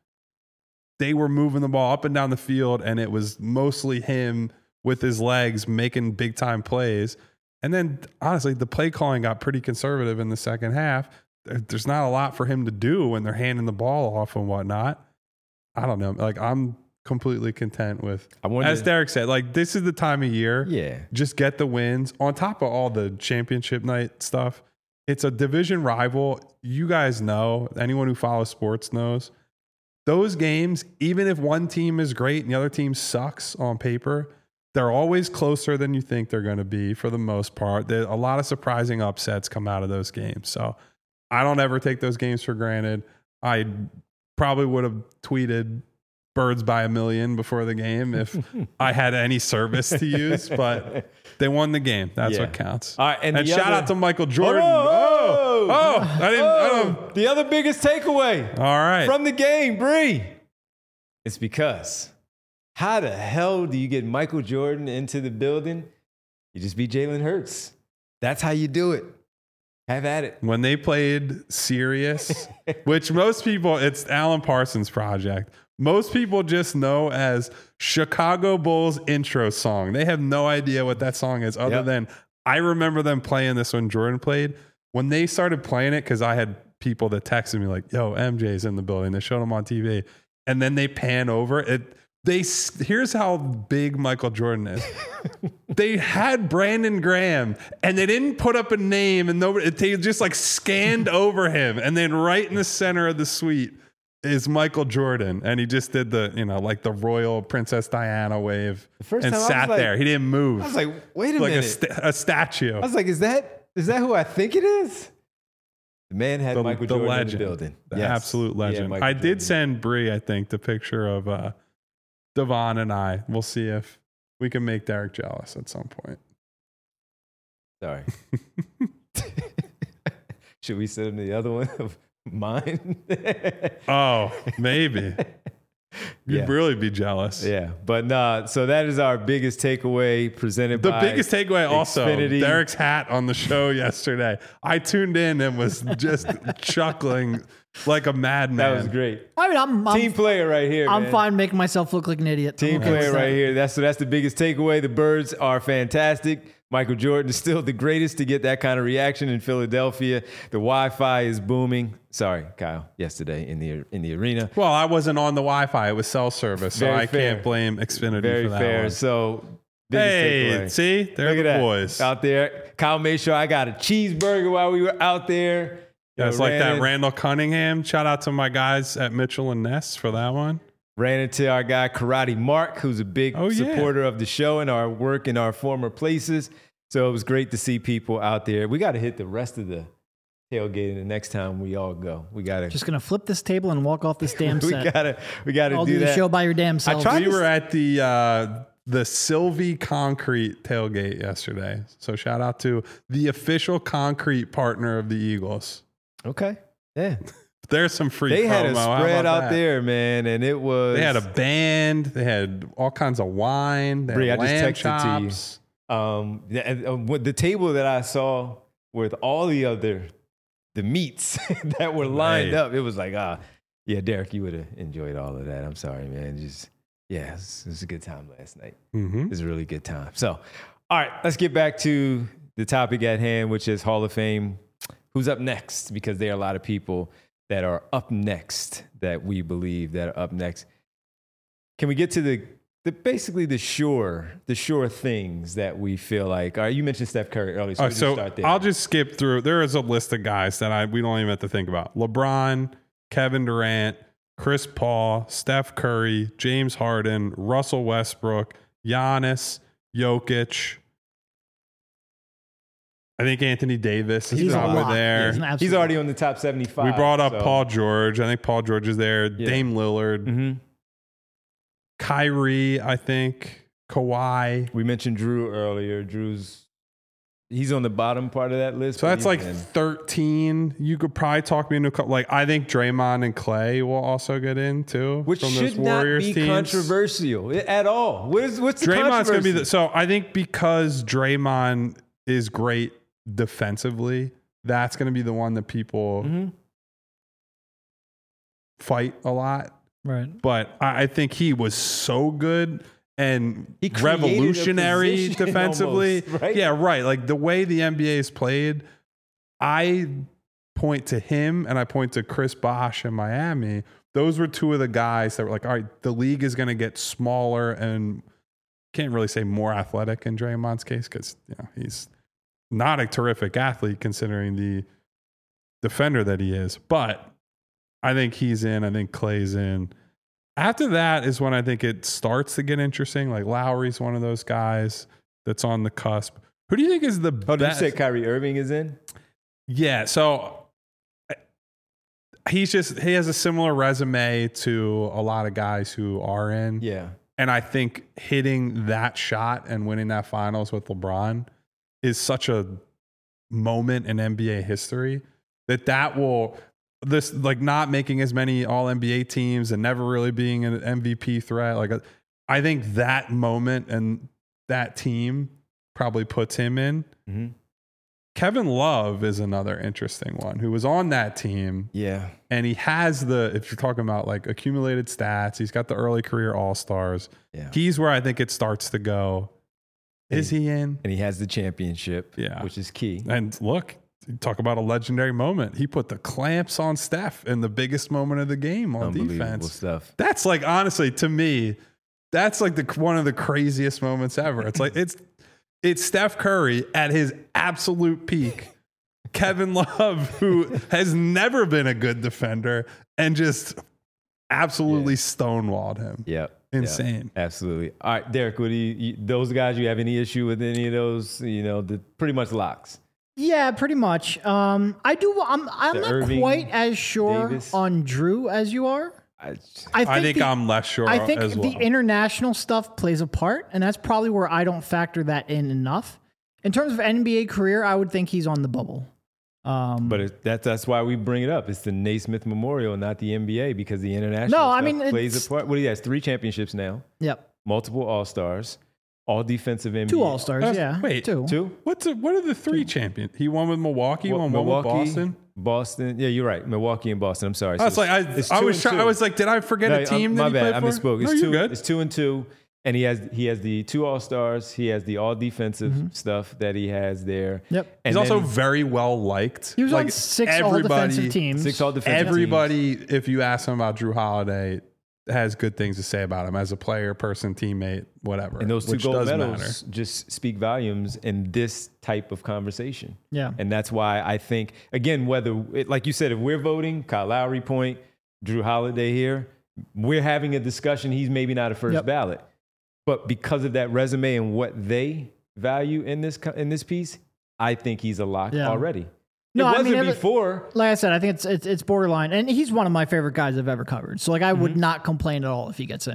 they were moving the ball up and down the field, and it was mostly him with his legs making big time plays. And then honestly, the play calling got pretty conservative in the second half. There- There's not a lot for him to do when they're handing the ball off and whatnot. I don't know. Like, I'm completely content with, I wonder- as Derek said, like, this is the time of year. Yeah. Just get the wins on top of all the championship night stuff. It's a division rival. You guys know, anyone who follows sports knows, those games, even if one team is great and the other team sucks on paper, they're always closer than you think they're going to be for the most part. There, a lot of surprising upsets come out of those games. So I don't ever take those games for granted. I probably would have tweeted birds by a million before the game if I had any service to use, but they won the game. That's Yeah. what counts. All right, and and the shout other- out to Michael Jordan. Oh, Oh, oh, I didn't. I Oh, don't, the other biggest takeaway all right. from the game, Bree. It's because how the hell do you get Michael Jordan into the building? You just beat Jalen Hurts. That's how you do it. Have at it. When they played Serious, which most people, it's Alan Parsons' project. Most people just know as Chicago Bulls intro song. They have no idea what that song is other Yep. than I remember them playing this when Jordan played. When they started playing it, because I had people that texted me like, yo, M J's in the building. They showed him on T V. And then they pan over it. They here's how big Michael Jordan is. They had Brandon Graham, and they didn't put up a name, and nobody. They just like scanned over him, and then right in the center of the suite is Michael Jordan, and he just did the you know like the royal Princess Diana wave, first and time I was sat like- there. He didn't move. I was like, wait a like a, minute. sta- a statue. I was like, is that is that who I think it is? The man had the, Michael the Jordan legend, in the building. the Yes. absolute He had legend. Michael I Jordan. did send Bree, I think, the picture of uh, Devon and I. We'll see if we can make Derek jealous at some point. Sorry. Should we send him the other one of mine? Oh, maybe. You'd Yeah. really be jealous. Yeah, but nah. So that is our biggest takeaway presented The by biggest takeaway also, Xfinity. Derek's hat on the show yesterday. I tuned in and was just chuckling like a madman. That was great. I mean, I'm I'm, Team player right here. I'm man. fine making myself look like an idiot. I'm Team okay with player that. right here. That's so that's the biggest takeaway. The Birds are fantastic. Michael Jordan is still the greatest to get that kind of reaction in Philadelphia. The Wi-Fi is booming. Sorry, Kyle. Yesterday in the in the arena. Well, I wasn't on the Wi-Fi. It was cell service, so Very I fair. can't blame Xfinity Very for that fair. one. So biggest Hey, takeaway. see? They're Look the at that. boys. Out there. Kyle made sure I got a cheeseburger while we were out there. You That's know, like ran that in- Randall Cunningham. Shout out to my guys at Mitchell and Ness for that one. Ran into our guy Karate Mark, who's a big Oh, yeah. supporter of the show and our work in our former places. So it was great to see people out there. We got to hit the rest of the tailgating the next time we all go. We got to. Just gonna flip this table and walk off this damn We set. got to. We got to I'll do do the that. show by your damn self. tried We to- were at the uh, the Sylvie Concrete tailgate yesterday. So shout out to the official concrete partner of the Eagles. Okay. Yeah. There's some free They promo. had a How spread about out that? there, man, and it was. They had a band. They had all kinds of wine. They Bree, had I just lamb texted to you. chops. Um, the, uh, with the table that I saw with all the other the meats that were lined Right. up, it was like, ah, yeah, Derek, you would have enjoyed all of that. I'm sorry, man. Just yeah, it was, it was a good time last night. Mm-hmm. It was a really good time. So, all right, let's get back to the topic at hand, which is Hall of Fame. Who's up next? Because there are a lot of people that are up next that we believe that are up next. Can we get to the The, basically the sure, the sure things that we feel like. All right, you mentioned Steph Curry earlier, so, All we right, just so start there. I'll just skip through. There is a list of guys that I we don't even have to think about. LeBron, Kevin Durant, Chris Paul, Steph Curry, James Harden, Russell Westbrook, Giannis, Jokic. I think Anthony Davis is He's a probably lot. there. He's an absolute He's already on the top seventy-five. We brought up so. Paul George. I think Paul George is there. Yeah. Dame Lillard, Mm-hmm. Kyrie, I think, Kawhi. We mentioned Drew earlier. Drew's he's on the bottom part of that list. So but that's he's like in. thirteen. You could probably talk me into a couple. Like I think Draymond and Clay will also get in too. which from should those Warriors not be teams. controversial at all. What is what's the Draymond's going to be controversy? the. So I think because Draymond is great defensively, that's going to be the one that people Mm-hmm. fight a lot. Right. But I I think he was so good and He created a revolutionary position defensively. almost, right? Yeah, right. Like the way the N B A is played, I point to him and I point to Chris Bosh in Miami. Those were two of the guys that were like, all right, the league is going to get smaller and can't really say more athletic in Draymond's case because you know, he's not a terrific athlete considering the defender that he is. But I think he's in. I think Clay's in. After that is when I think it starts to get interesting. Like Lowry's one of those guys that's on the cusp. Who do you think is the Oh, did you best? say Kyrie Irving is in? Yeah. So he's just, he has a similar resume to a lot of guys who are in. Yeah. And I think hitting that shot and winning that finals with LeBron is such a moment in N B A history that that will, this like not making as many all N B A teams and never really being an M V P threat. Like I think that moment and that team probably puts him in. Mm-hmm. Kevin Love is another interesting one who was on that team. Yeah. And he has the, if you're talking about like accumulated stats, he's got the early career all-stars. Yeah. He's where I think it starts to go. Is he in? And he has the championship, Yeah. which is key. And look, you talk about a legendary moment. He put the clamps on Steph in the biggest moment of the game on Unbelievable defense. stuff. That's like, honestly, to me, that's like the one of the craziest moments ever. It's like, it's, it's Steph Curry at his absolute peak. Kevin Love, who has never been a good defender and just absolutely Yeah. stonewalled him. Yep. Insane. Yep. Absolutely. All right, Derek, what do you, you, those guys, you have any issue with any of those? You know, the pretty much locks. Yeah, pretty much. Um, I do. I'm. I'm The not Irving, quite as sure Davis. on Drew as you are. I, I think, I think the, I'm less sure I think as well. the international stuff plays a part, and that's probably where I don't factor that in enough. In terms of N B A career, I would think he's on the bubble. Um, but it, that's that's why we bring it up. It's the Naismith Memorial, not the N B A, because the international No, I stuff mean, plays it's- a part. What do you have? Three championships now, yep, multiple All Stars, all defensive N B A. two All Stars. That's- Yeah, wait, two. Two. What's a, what are the three champions? He won with Milwaukee, Well, won one with Boston. Boston. Yeah, you're right. Milwaukee and Boston. I'm sorry. I was So like, I, it's I two was and trying, two. I was like, did I forget No, a team I'm- that my he bad. I played for? misspoke. It's no, two. you're good. It's two and two, and he has he has the two All Stars. He has the all defensive Mm-hmm. stuff that he has there. Yep. And He's also then very well liked. He was like on six everybody, all defensive teams. six all defensive. Everybody, if you ask him about Drew Holiday, has good things to say about him as a player, person, teammate, whatever. And those two which gold does medals matter. just speak volumes in this type of conversation. Yeah. And that's why I think, again, whether, it, like you said, if we're voting, Kyle Lowry point, Drew Holiday here, we're having a discussion. He's maybe not a first Yep. ballot. But because of that resume and what they value in this co- in this piece, I think he's a lock Yeah. already. No, it I wasn't mean, every- before. Like I said, I think it's it's it's borderline, and he's one of my favorite guys I've ever covered. So like, I would not complain at all if he gets in.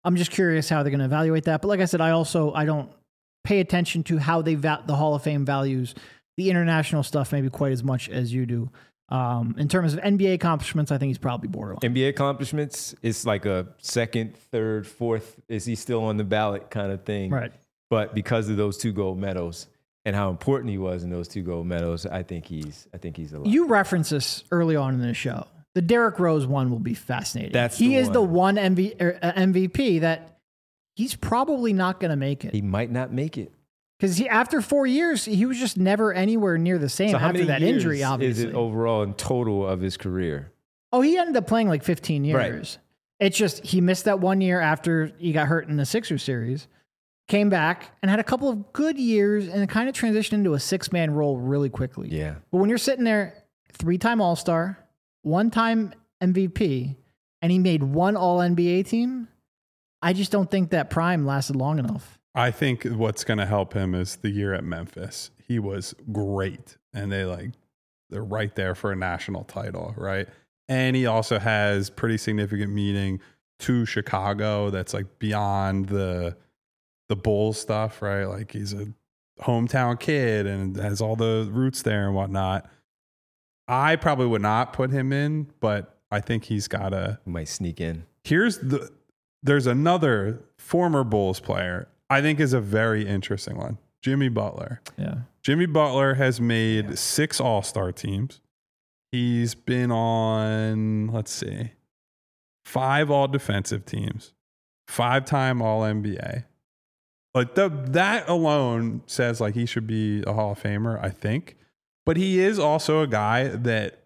I'm just curious how they're going to evaluate that. But like I said, I also I don't pay attention to how they va- the Hall of Fame values the international stuff maybe quite as much as you do. Um, in terms of N B A accomplishments, I think he's probably borderline. N B A accomplishments, it's like a second, third, fourth. Is he still on the ballot kind of thing? Right. But because of those two gold medals and how important he was in those two gold medals, I think he's I think he's a lot. You referenced this early on in the show. The Derrick Rose one will be fascinating. That's he the is one. the one M V, er, uh, M V P that he's probably not going to make it. He might not make it. Because he, after four years, he was just never anywhere near the same So how after many that years injury, obviously. is it overall in total of his career? Oh, he ended up playing like fifteen years. Right. It's just he missed that one year after he got hurt in the Sixers series, came back and had a couple of good years and kind of transitioned into a six-man role really quickly. Yeah. But when you're sitting there, three-time All-Star, one-time M V P, and he made one All-N B A team, I just don't think that prime lasted long enough. I think what's going to help him is the year at Memphis. He was great, and they like they're right there for a national title, right? And he also has pretty significant meaning to Chicago. That's like beyond the the Bulls stuff, right? Like he's a hometown kid and has all the roots there and whatnot. I probably would not put him in, but I think he's got to. Might sneak in. Here's the. There's another former Bulls player I think is a very interesting one. Jimmy Butler. Yeah. Jimmy Butler has made yeah. six All-Star teams. He's been on, let's see, five all-defensive teams, five-time All-N B A. Like the, that alone says like he should be a Hall of Famer, I think. But he is also a guy that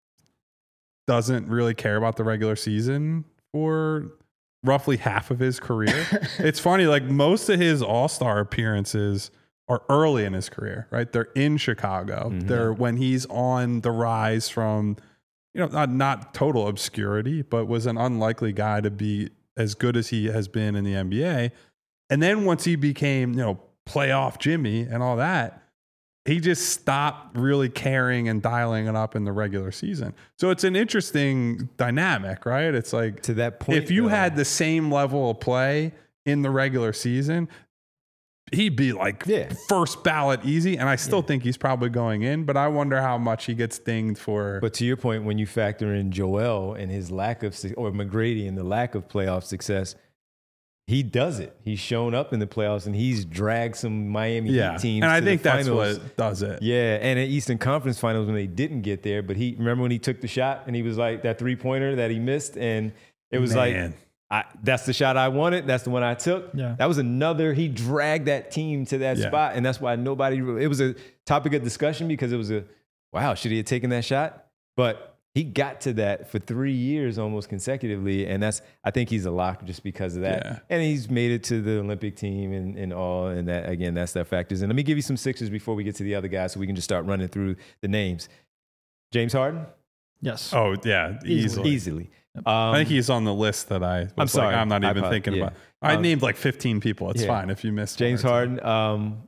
doesn't really care about the regular season for roughly half of his career. It's funny, like most of his All-Star appearances are early in his career, right? They're in Chicago. Mm-hmm. They're when he's on the rise from, you know, not, not total obscurity, but was an unlikely guy to be as good as he has been in the N B A. And then once he became, you know, playoff Jimmy and all that, he just stopped really caring and dialing it up in the regular season. So it's an interesting dynamic, right? It's like to that point, if you though, had the same level of play in the regular season, he'd be like yeah. first ballot easy. And I still yeah. think he's probably going in, but I wonder how much he gets dinged for. But to your point, when you factor in Joel and his lack of, or McGrady and the lack of playoff success, he does it. He's shown up in the playoffs and he's dragged some Miami yeah. Heat teams. And I to think the that's finals. what does it. Yeah, and at Eastern Conference Finals when they didn't get there, but he remember when he took the shot and he was like that three pointer that he missed, and it was Man. like, I, that's the shot I wanted. That's the one I took. Yeah. That was another. He dragged that team to that yeah. spot, and that's why nobody. Really, it was a topic of discussion because it was a wow. Should he have taken that shot? But he got to that for three years almost consecutively, and that's I think he's a lock just because of that. Yeah. And he's made it to the Olympic team and, and all, and that again, that's that factors. And let me give you some Sixers before we get to the other guys, so we can just start running through the names. James Harden. Yes. Oh yeah, easily. Easily. Um, I think he's on the list that I. Was I'm sorry. Like, I'm not even I, thinking yeah. about. I um, named like fifteen people. It's yeah. fine if you missed James one or Harden. Um,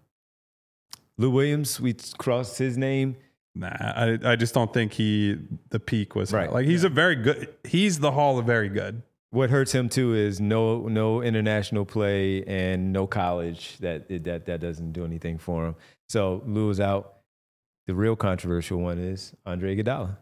Lou Williams. We crossed his name. Nah, I, I just don't think he the peak was right. Like he's yeah. a very good. He's the Hall of very good. What hurts him too is no no international play and no college. That that that doesn't do anything for him. So Lou is out. The real controversial one is Andre Iguodala.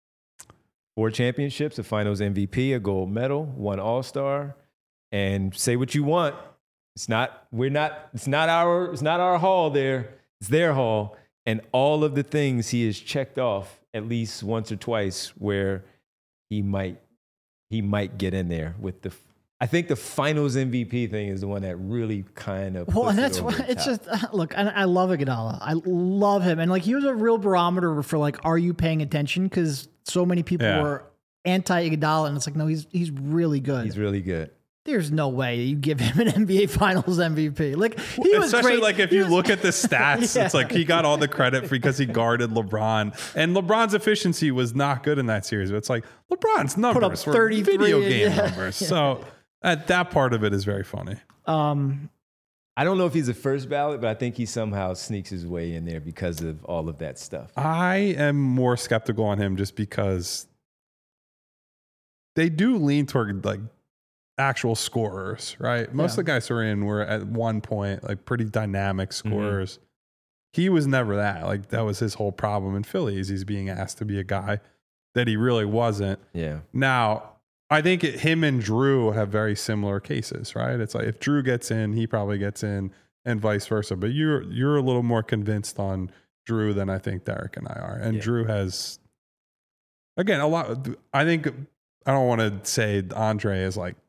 Four championships, a Finals M V P, a gold medal, one All-Star, and say what you want. It's not. We're not. It's not our. It's not our hall. There. It's their hall. And all of the things he has checked off at least once or twice where he might he might get in there with the I think the Finals M V P thing is the one that really kind of well, and it that's over why the it's top. just look. I, I love Iguodala. I love him, and like he was a real barometer for like, are you paying attention? Because so many people Yeah. were anti Iguodala, and it's like, no, he's he's really good. He's really good. There's no way you give him an N B A Finals M V P. Like he was Especially great. like if He you was- look at the stats, Yeah. it's like he got all the credit because he guarded LeBron, and LeBron's efficiency was not good in that series. But it's like LeBron's numbers were thirty-three, video game yeah. numbers. Yeah. So at that part of it is very funny. Um, I don't know if he's a first ballot, but I think he somehow sneaks his way in there because of all of that stuff. I am more skeptical on him just because they do lean toward like actual scorers, right? Most Yeah. of the guys who are in were at one point like pretty dynamic scorers. Mm-hmm. He was never that. Like that was his whole problem in Philly is he's being asked to be a guy that he really wasn't. Yeah. Now, I think it, him and Drew have very similar cases, right? It's like if Drew gets in, he probably gets in, and vice versa. But you're you're a little more convinced on Drew than I think Derek and I are. And Yeah. Drew has, again, a lot. I think I don't want to say Andre is like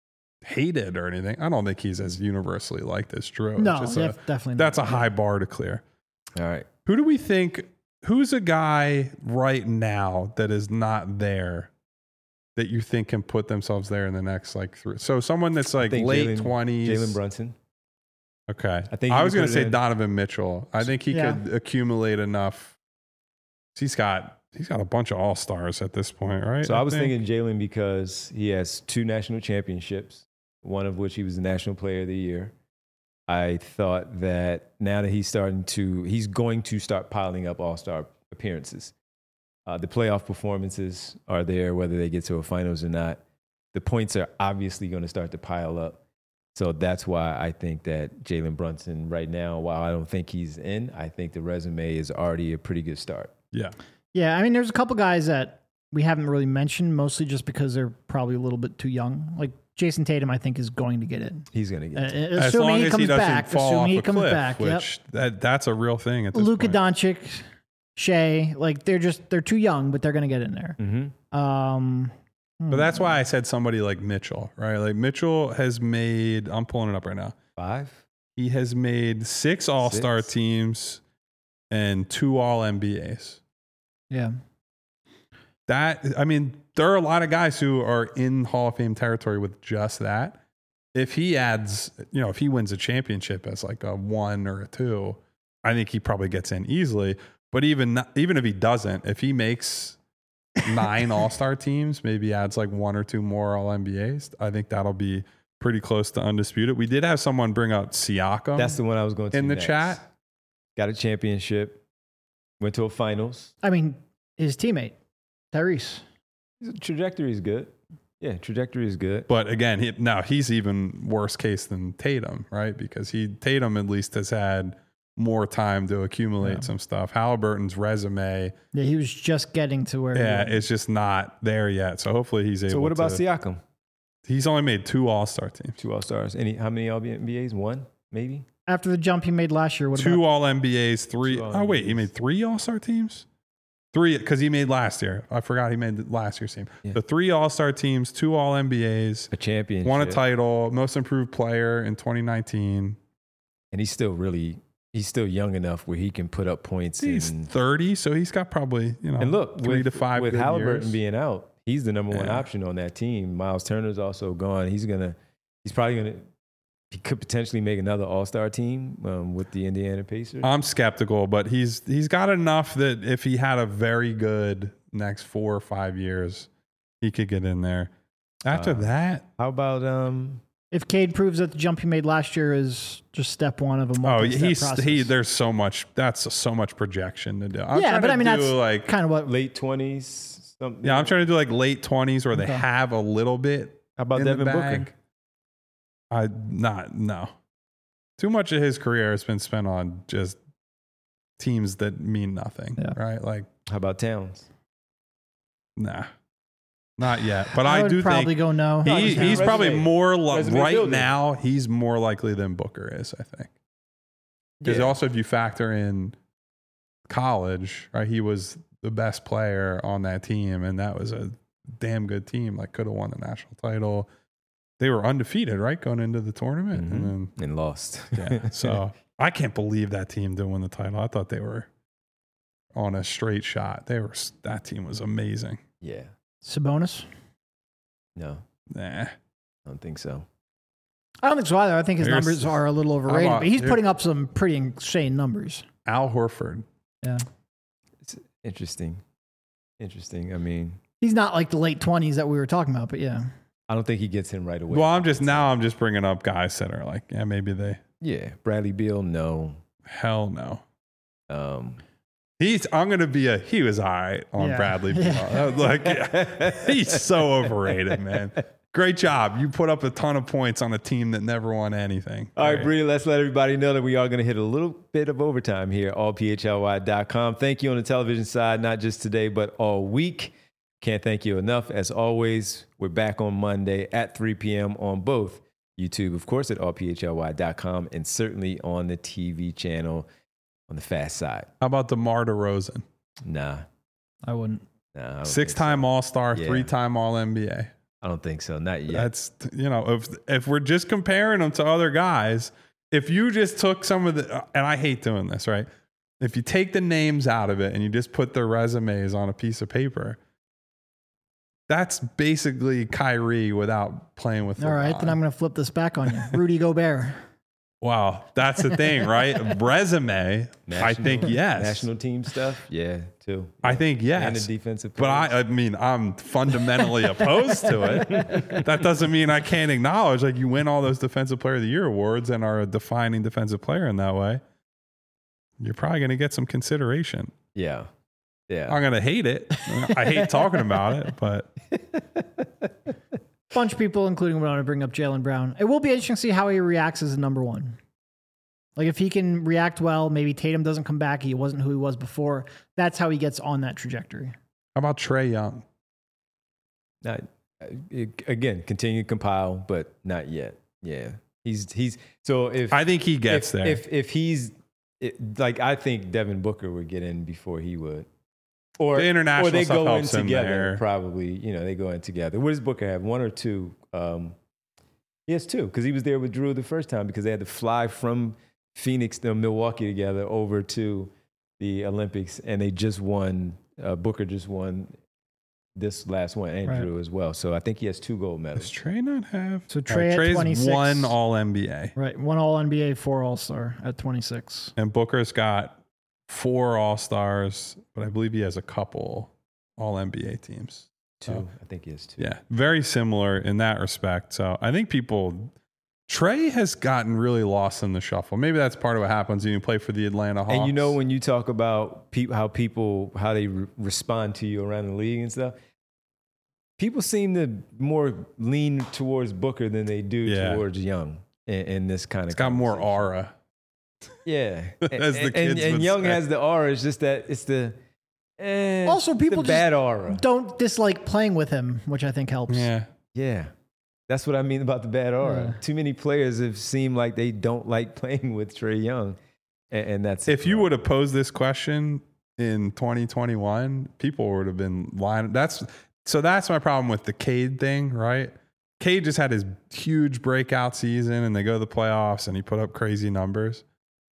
hated or anything. I don't think he's as universally liked as Drew. No, It's just def- a, definitely not. that's a high bar to clear. All right. Who do we think? Who's a guy right now that is not there that you think can put themselves there in the next like three? So someone that's like think late Jalen- twenties. Jalen Brunson. Okay. I think I he was could going put to it say in. Donovan Mitchell. I think he Yeah. could accumulate enough. He's got he's got a bunch of all stars at this point, right? So I, was think. thinking Jalen because he has two national championships, one of which he was the National Player of the Year. I thought that now that he's starting to, he's going to start piling up all-star appearances. Uh, the playoff performances are there, whether they get to a finals or not. The points are obviously going to start to pile up. So that's why I think that Jalen Brunson right now, while I don't think he's in, I think the resume is already a pretty good start. Yeah. Yeah, I mean, there's a couple guys that we haven't really mentioned, mostly just because they're probably a little bit too young. Like Jason Tatum, I think, is going to get in. He's going to Uh, get it. As assuming long he as comes he doesn't back. fall Assuming off he a comes cliff, back. Yep. which that, that's a real thing at this Luka point. Doncic, Shea, like they're just they're too young, but they're going to get in there. Mm-hmm. Um, But that's why I said somebody like Mitchell, right? Like Mitchell has made, I'm pulling it up right now. Five? He has made six all-star Six? teams and two all N B As. yeah, That, I mean, there are a lot of guys who are in Hall of Fame territory with just that. If he adds, you know, if he wins a championship as like a one or a two, I think he probably gets in easily. But even not, even if he doesn't, if he makes nine all-star teams, maybe adds like one or two more all N B As, I think that'll be pretty close to undisputed. We did have someone bring up Siakam That's the one I was going to in the next. chat. Got a championship, went to a finals. I mean, his teammate Tyrese. His trajectory is good. Yeah, trajectory is good. But again, he, now he's even worse case than Tatum, right? Because he Tatum at least has had more time to accumulate Yeah. some stuff. Halliburton's resume, Yeah, he was just getting to where. yeah, he was. it's just not there yet. So hopefully he's able. So what about to, Siakam? He's only made two All-Star teams, Two All Stars. Any? How many All N B As? One, maybe. After the jump he made last year. What two about? All N B As, three. Two Oh wait, he All-N B As. made three All-Star teams. Three because he made last year. I forgot he made last year's team. Yeah. So three All-Star teams, two All N B As, A championship. won a title, most improved player in twenty nineteen. and he's still really. He's still young enough where he can put up points. He's and, thirty, so he's got probably, you know, and look, three with, to five with good Halliburton years. being out, he's the number one Yeah. option on that team. Miles Turner's also gone. He's gonna. He's probably gonna. He could potentially make another All Star team um, with the Indiana Pacers. I'm skeptical, but he's he's got enough that if he had a very good next four or five years, he could get in there. After Uh, that, How about um? If Cade proves that the jump he made last year is just step one of a oh, multi-step he's process. he. There's so much. That's so much projection to do. I'm yeah, trying but to I mean do that's like kind of what. late twenties. Something. yeah, I'm trying to do like late twenties where they Okay. have a little bit. How about in Devin the Booker? bag. I not no. Too much of his career has been spent on just teams that mean nothing, Yeah. right? Like, How about Towns? nah, not yet. But I, I, would do probably think go no. No, he, just he's resume- probably more li- resume right building. now. He's more likely than Booker is, I think. Because Yeah. also, if you factor in college, right, he was the best player on that team, and that was a damn good team. Like, could have won the national title. They were undefeated, right, going into the tournament, Mhm. and then And lost. yeah. So I can't believe that team didn't win the title. I thought they were on a straight shot. They were that team was amazing. yeah. Sabonis. No, Nah. I don't think so. I don't think so either. I think his Here's- numbers are a little overrated, about- but he's here- putting up some pretty insane numbers. Al Horford. Yeah, It's interesting. Interesting. I mean, he's not like the late twenties that we were talking about, but yeah. I don't think he gets in right away. Well, I'm just now I'm just bringing up guys that are like, yeah, maybe they. Yeah, Bradley Beal. No. Hell no. Um, He's. I'm gonna be a. He was all right on Yeah. Bradley Beal. I was like, yeah, he's so overrated, man. Great job. You put up a ton of points on a team that never won anything. All right, Bree, let's let everybody know that we are going to hit a little bit of overtime here at all p h l y dot com. Thank you on the television side, not just today, but all week. Can't thank you enough. As always, we're back on Monday at three p.m. on both YouTube, of course, at all p h l y dot com, and certainly on the T V channel on the fast side. How about DeMar DeRozan? Nah. I wouldn't. nah I don't Six-time think so. All-Star, Yeah. three-time All N B A. I don't think so. Not yet. That's, you know, if if we're just comparing them to other guys, if you just took some of the, and I hate doing this, right? If you take the names out of it and you just put their resumes on a piece of paper, that's basically Kyrie without playing with. All right, then I'm going to flip this back on you. Rudy Gobert. Wow, that's the thing, right? Resume, National, I think yes. National team stuff, yeah, too. I think yes. And the defensive But players. I, I mean, I'm fundamentally opposed to it. That doesn't mean I can't acknowledge, like, you win all those Defensive Player of the Year awards and are a defining defensive player in that way. You're probably going to get some consideration. Yeah. Yeah. I'm going to hate it. I hate talking about it, but Bunch of people, including what I want to bring up Jaylen Brown. It will be interesting to see how he reacts as a number one. Like if he can react well, maybe Tatum doesn't come back. He wasn't who he was before. That's how he gets on that trajectory. how about Trae Young? Not it, again, continue to compile, but not yet. Yeah. He's he's so if I think he gets if, there. If if he's it, like I think Devin Booker would get in before he would. Or, The international or they stuff go in helps him together, there. probably. You know, they go in together. What does Booker have? One or two? Um, he has two because he was there with Drew the first time because they had to fly from Phoenix to Milwaukee together over to the Olympics, and they just won. Uh, Booker just won this last one, and Right. Drew as well. So I think he has two gold Does medals. Trae not have? So All Trae at Trae's twenty-six. one All N B A. Right. One All N B A, four All Star at twenty-six. And Booker's got four All Stars, but I believe he has a couple All N B A teams. Two, So, I think he has two. yeah, very similar in that respect. So I think people, Trae has gotten really lost in the shuffle. Maybe that's part of what happens when you play for the Atlanta Hawks. And you know when you talk about pe- how people how they re- respond to you around the league and stuff, people seem to more lean towards Booker than they do Yeah. towards Young in, in this kind of. it's got more conversation. aura. Yeah, As the and, kids and, and would Young say. has the aura. It's just that it's the eh, Also, people the just bad aura. don't dislike playing with him, which I think helps. Yeah. Yeah, that's what I mean about the bad aura. Yeah. Too many players have seemed like they don't like playing with Trae Young, and, and that's If you would have posed this question in twenty twenty-one, people would have been lying. That's so that's my problem with the Cade thing, right? Cade just had his huge breakout season and they go to the playoffs and he put up crazy numbers.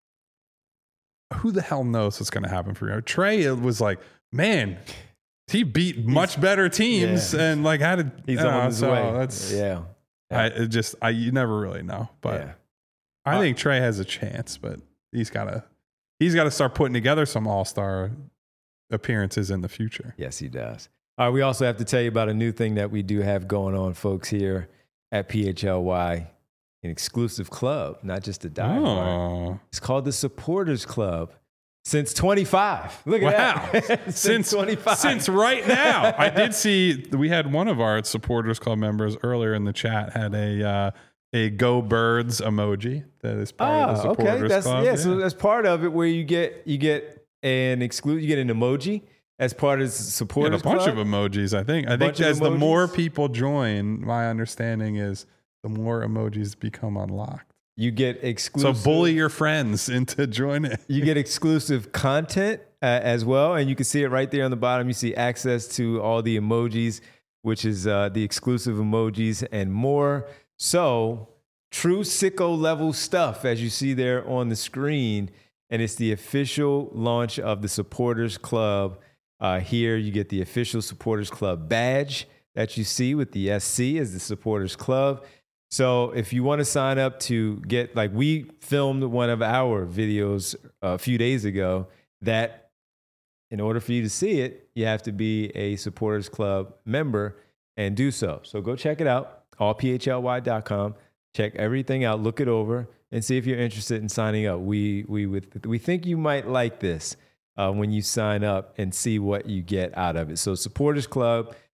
Who the hell knows what's going to happen for you? Trae, it was like, man, he beat much better teams yeah. and like had a, he's you know, on his so way. That's, yeah, I it just, I, you never really know, but yeah. I Uh, think Trae has a chance, but he's got to, he's got to start putting together some all-star appearances in the future. Yes, he does. All right, we also have to tell you about a new thing that we do have going on, folks, here at P H L Y, an exclusive club, not just a diehard. Oh, It's called the Supporters Club. Since twenty-five. Look at wow. that. since, since twenty-five. Since right now. I did see, we had one of our Supporters Club members earlier in the chat had a, uh, a Go Birds emoji that is part Ah, of the Supporters okay. That's, Club. yeah, so that's part of it where you get you get an exclude you get an emoji as part of the You had Supporters a bunch Club. of emojis, I think. I think Bunch of as the more emojis? people join, my understanding is the more emojis become unlocked. You get So exclusive. bully your friends into joining. You get exclusive content uh, as well, and you can see it right there on the bottom. You see access to all the emojis, which is uh, the exclusive emojis and more. So true sicko level stuff, as you see there on the screen, and it's the official launch of the Supporters Club. Uh, here you get the official Supporters Club badge that you see with the S C as the Supporters Club. So if you want to sign up to get, like we filmed one of our videos a few days ago that in order for you to see it, you have to be a Supporters Club member and do so. So go check it out, all p h l y dot com. Check everything out, look it over, and see if you're interested in signing up. We we would, we think you might like this uh, when you sign up and see what you get out of it. So Supporters Club,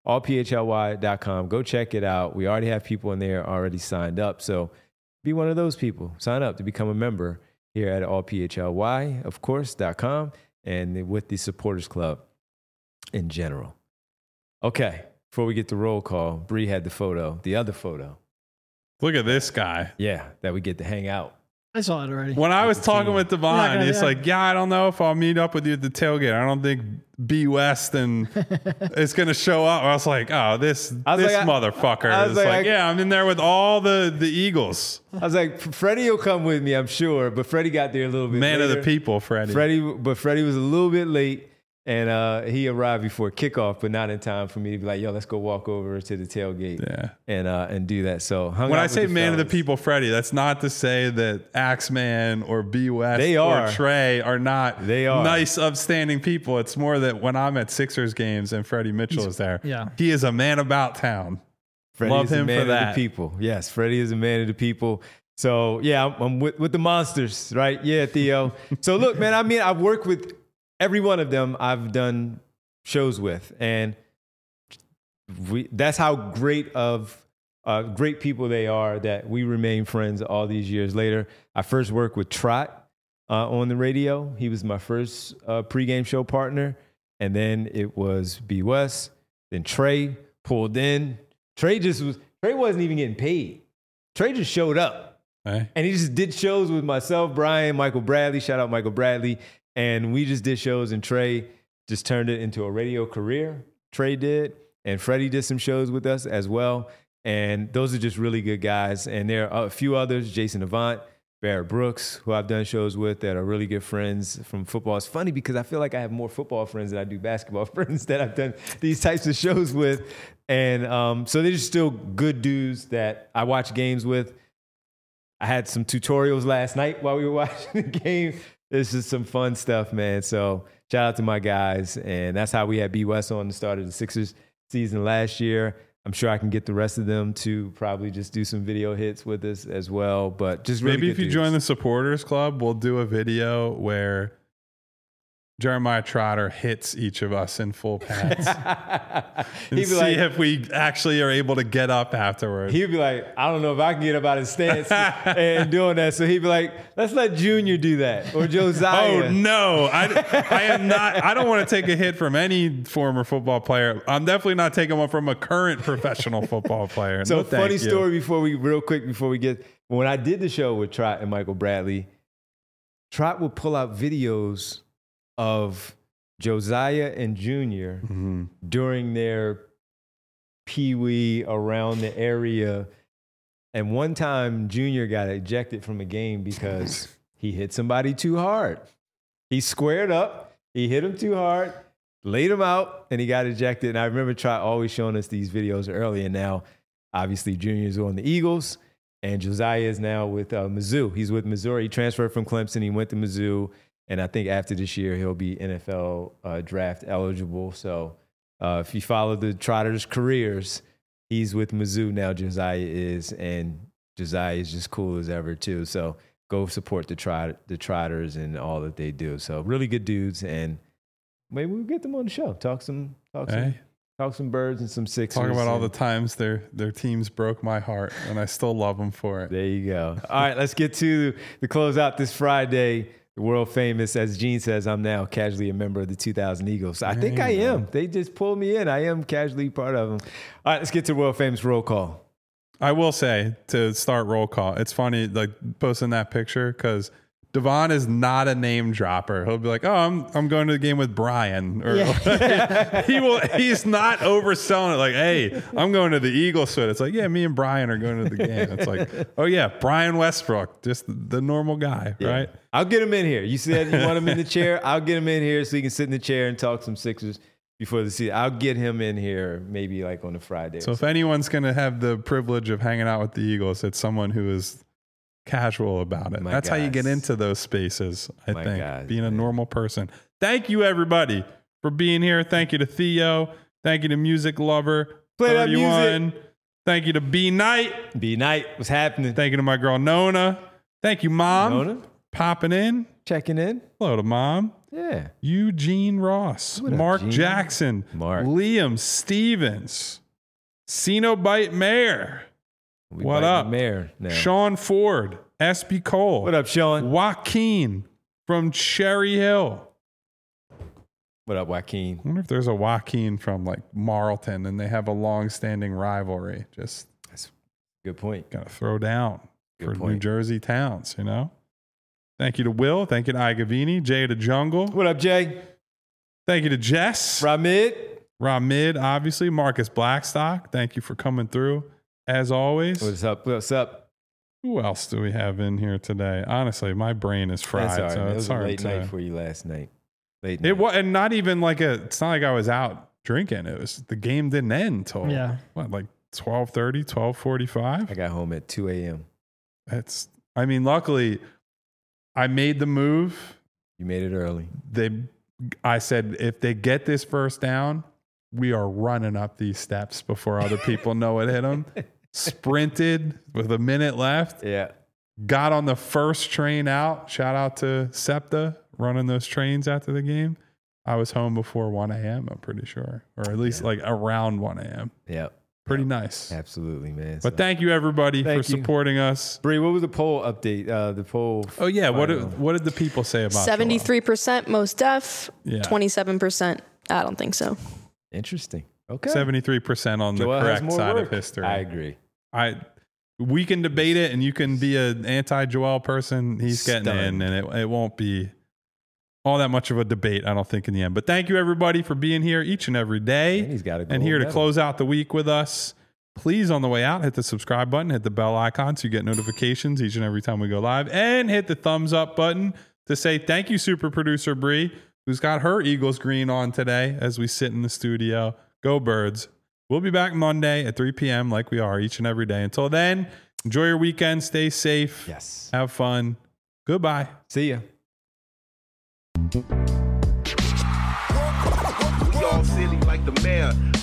all p h l y dot com. Go check it out. We already have people in there already signed up. So be one of those people. Sign up to become a member here at all p h l y, of course, dot com and with the Supporters Club in general. Okay, before we get to roll call, Bree had the photo, the other photo. Look at this guy. Yeah, that we get to hang out. I saw it already. When I was talking with Devon, gonna, he's yeah. like, yeah, I don't know if I'll meet up with you at the tailgate. I don't think B West and is going to show up. I was like, oh, this I was this like, I- motherfucker. I was is like, like, I- yeah, I'm in there with all the, the Eagles. I was like, Freddie will come with me, I'm sure, but Freddie got there a little bit Man later. of the people, Freddie. Freddie, but Freddie was a little bit late, and uh, he arrived before kickoff, but not in time for me to be like, yo, let's go walk over to the tailgate Yeah. and uh, and do that. So hung When out I with say the man of the fellas. people, Freddie, that's not to say that Axeman or B West They are. or Trey are not They are. nice, upstanding people. It's more that when I'm at Sixers games and Freddie Mitchell is there, yeah. he is a man about town. Freddie Love is a him man for of that. the people. Yes, Freddie is a man of the people. So yeah, I'm, I'm with, with the monsters, right? Yeah, Theo. So look, man, I mean, I've worked with every one of them. I've done shows with, and we that's how great of uh, great people they are that we remain friends all these years later. I first worked with Trot uh, on the radio. He was my first uh, pregame show partner, and then it was B West. Then Trey pulled in. Trey just was Trey wasn't even getting paid. Trey just showed up. Right? And he just did shows with myself, Brian, Michael Bradley. Shout out Michael Bradley. And we just did shows, and Trey just turned it into a radio career. Trey did. And Freddie did some shows with us as well. And those are just really good guys. And there are a few others, Jason Avant, Barrett Brooks, who I've done shows with that are really good friends from football. It's funny because I feel like I have more football friends than I do basketball friends that I've done these types of shows with. And um, so they're just still good dudes that I watch games with. I had some tutorials last night while we were watching the game. This is some fun stuff, man. So shout out to my guys. And that's how we had B West on the start of the Sixers season last year. I'm sure I can get the rest of them to probably just do some video hits with us as well. But just really Maybe good if you dudes. join the supporters club, we'll do a video where Jeremiah Trotter hits each of us in full pads and He'd be see like, if we actually are able to get up afterwards. he'd be like, I don't know if I can get up out of stance and doing that. So he'd be like, let's let Junior do that or Josiah. Oh no, I, I am not. I don't want to take a hit from any former football player. I'm definitely not taking one from a current professional football player. So No, thank funny you. story before we, real quick before we get, when I did the show with Trot and Michael Bradley, Trot would pull out videos of Josiah and Junior Mhm. during their pee-wee around the area. And one time Junior got ejected from a game because he hit somebody too hard. He squared up, he hit him too hard, laid him out, and he got ejected. And I remember Trot always showing us these videos early. And now, obviously, Junior's on the Eagles, and Josiah is now with uh, Mizzou. He's with Missouri. He transferred from Clemson. He went to Mizzou. And I think after this year, he'll be N F L uh, draft eligible. So uh, if you follow the Trotters' careers, he's with Mizzou now, Josiah is. And Josiah is just cool as ever, too. So go support the, trot- the Trotters and all that they do. So really good dudes. And maybe we'll get them on the show. Talk some, talk some, Hey. talk some birds and some Sixers. Talk about all the and- times their their teams broke my heart, and I still love them for it. There you go. All right, let's get to the closeout this Friday. The world famous, as Gene says, I'm now casually a member of the two thousand Eagles. I think There I you am. They just pulled me in. I am casually part of them. All right, let's get to world famous roll call. I will say to start roll call, it's funny like posting that picture because Devon is not a name dropper. He'll be like, "Oh, I'm I'm going to the game with Brian," or Yeah. he will. He's not overselling it. Like, "Hey, I'm going to the Eagles." So it's like, "Yeah, me and Brian are going to the game." It's like, "Oh yeah, Brian Westbrook, just the, the normal guy, Yeah. right?" I'll get him in here. You said you want him in the chair. I'll get him in here so he can sit in the chair and talk some Sixers before the season. I'll get him in here maybe like on a Friday. So if anyone's going to have the privilege of hanging out with the Eagles, it's someone who is casual about it. My That's how you get guys. into those spaces, I My think, guys, being a man. normal person. Thank you, everybody, for being here. Thank you to Theo. Thank you to Music Lover. Play that thirty-one. Thank you to B Knight. B Night, what's happening? Thank you to my girl Nona. Thank you, Mom. Nona? Popping in. checking in. Hello to mom. Yeah. Eugene Ross. What up, Mark Gene? Jackson. Mark. Liam Stevens. Cenobite Mayor. We What biting up? the mayor now. Sean Ford. S B Cole. What up, Sean? Joaquin from Cherry Hill. What up, Joaquin? I wonder if there's a Joaquin from like Marlton and they have a long-standing rivalry. Just Good point. gotta throw down Good for New point. Jersey towns, you know? Thank you to Will. Thank you to Igavini. Jay to Jungle. What up, Jay? Thank you to Jess. Ramid? Ramid, obviously. Marcus Blackstock. Thank you for coming through, as always. What's up? What's up? Who else do we have in here today? Honestly, my brain is fried, That's all right, so man. It it's was a hard late to. night for you last night. Late night. It was, and not even like a. It's not like I was out drinking. It was the game didn't end until Yeah. what, like twelve thirty, twelve forty-five. I got home at two a.m. That's. I mean, luckily, I made the move. You made it early. They, I said, if they get this first down, we are running up these steps before other people know it hit them. Sprinted with a minute left. Yeah. Got on the first train out. Shout out to SEPTA running those trains after the game. I was home before one a.m., I'm pretty sure. Or at least Yeah. like around one a.m. Yeah. Pretty nice. Absolutely, man. But thank you, everybody, Thank for you. supporting us. Bree, what was the poll update? Uh, the poll. Oh, yeah. What final. did, what did the people say about Joel? seventy-three percent most deaf, Yeah. twenty-seven percent I don't think so. Interesting. Okay. seventy-three percent on the Joel has correct more side work. of history. I agree. I we can debate it, and you can be an anti-Joel person. He's getting Stunned. in, and it, it won't be all that much of a debate, I don't think, in the end. But thank you, everybody, for being here each and every day, And he's got a and gold here to medal. close out the week with us. Please, on the way out, hit the subscribe button, hit the bell icon so you get notifications each and every time we go live, and hit the thumbs up button to say thank you, super producer Bree, who's got her Eagles green on today as we sit in the studio. Go Birds. We'll be back Monday at three p.m. like we are each and every day. Until then, enjoy your weekend. Stay safe. Yes. Have fun. Goodbye. See ya. We all silly like the mayor.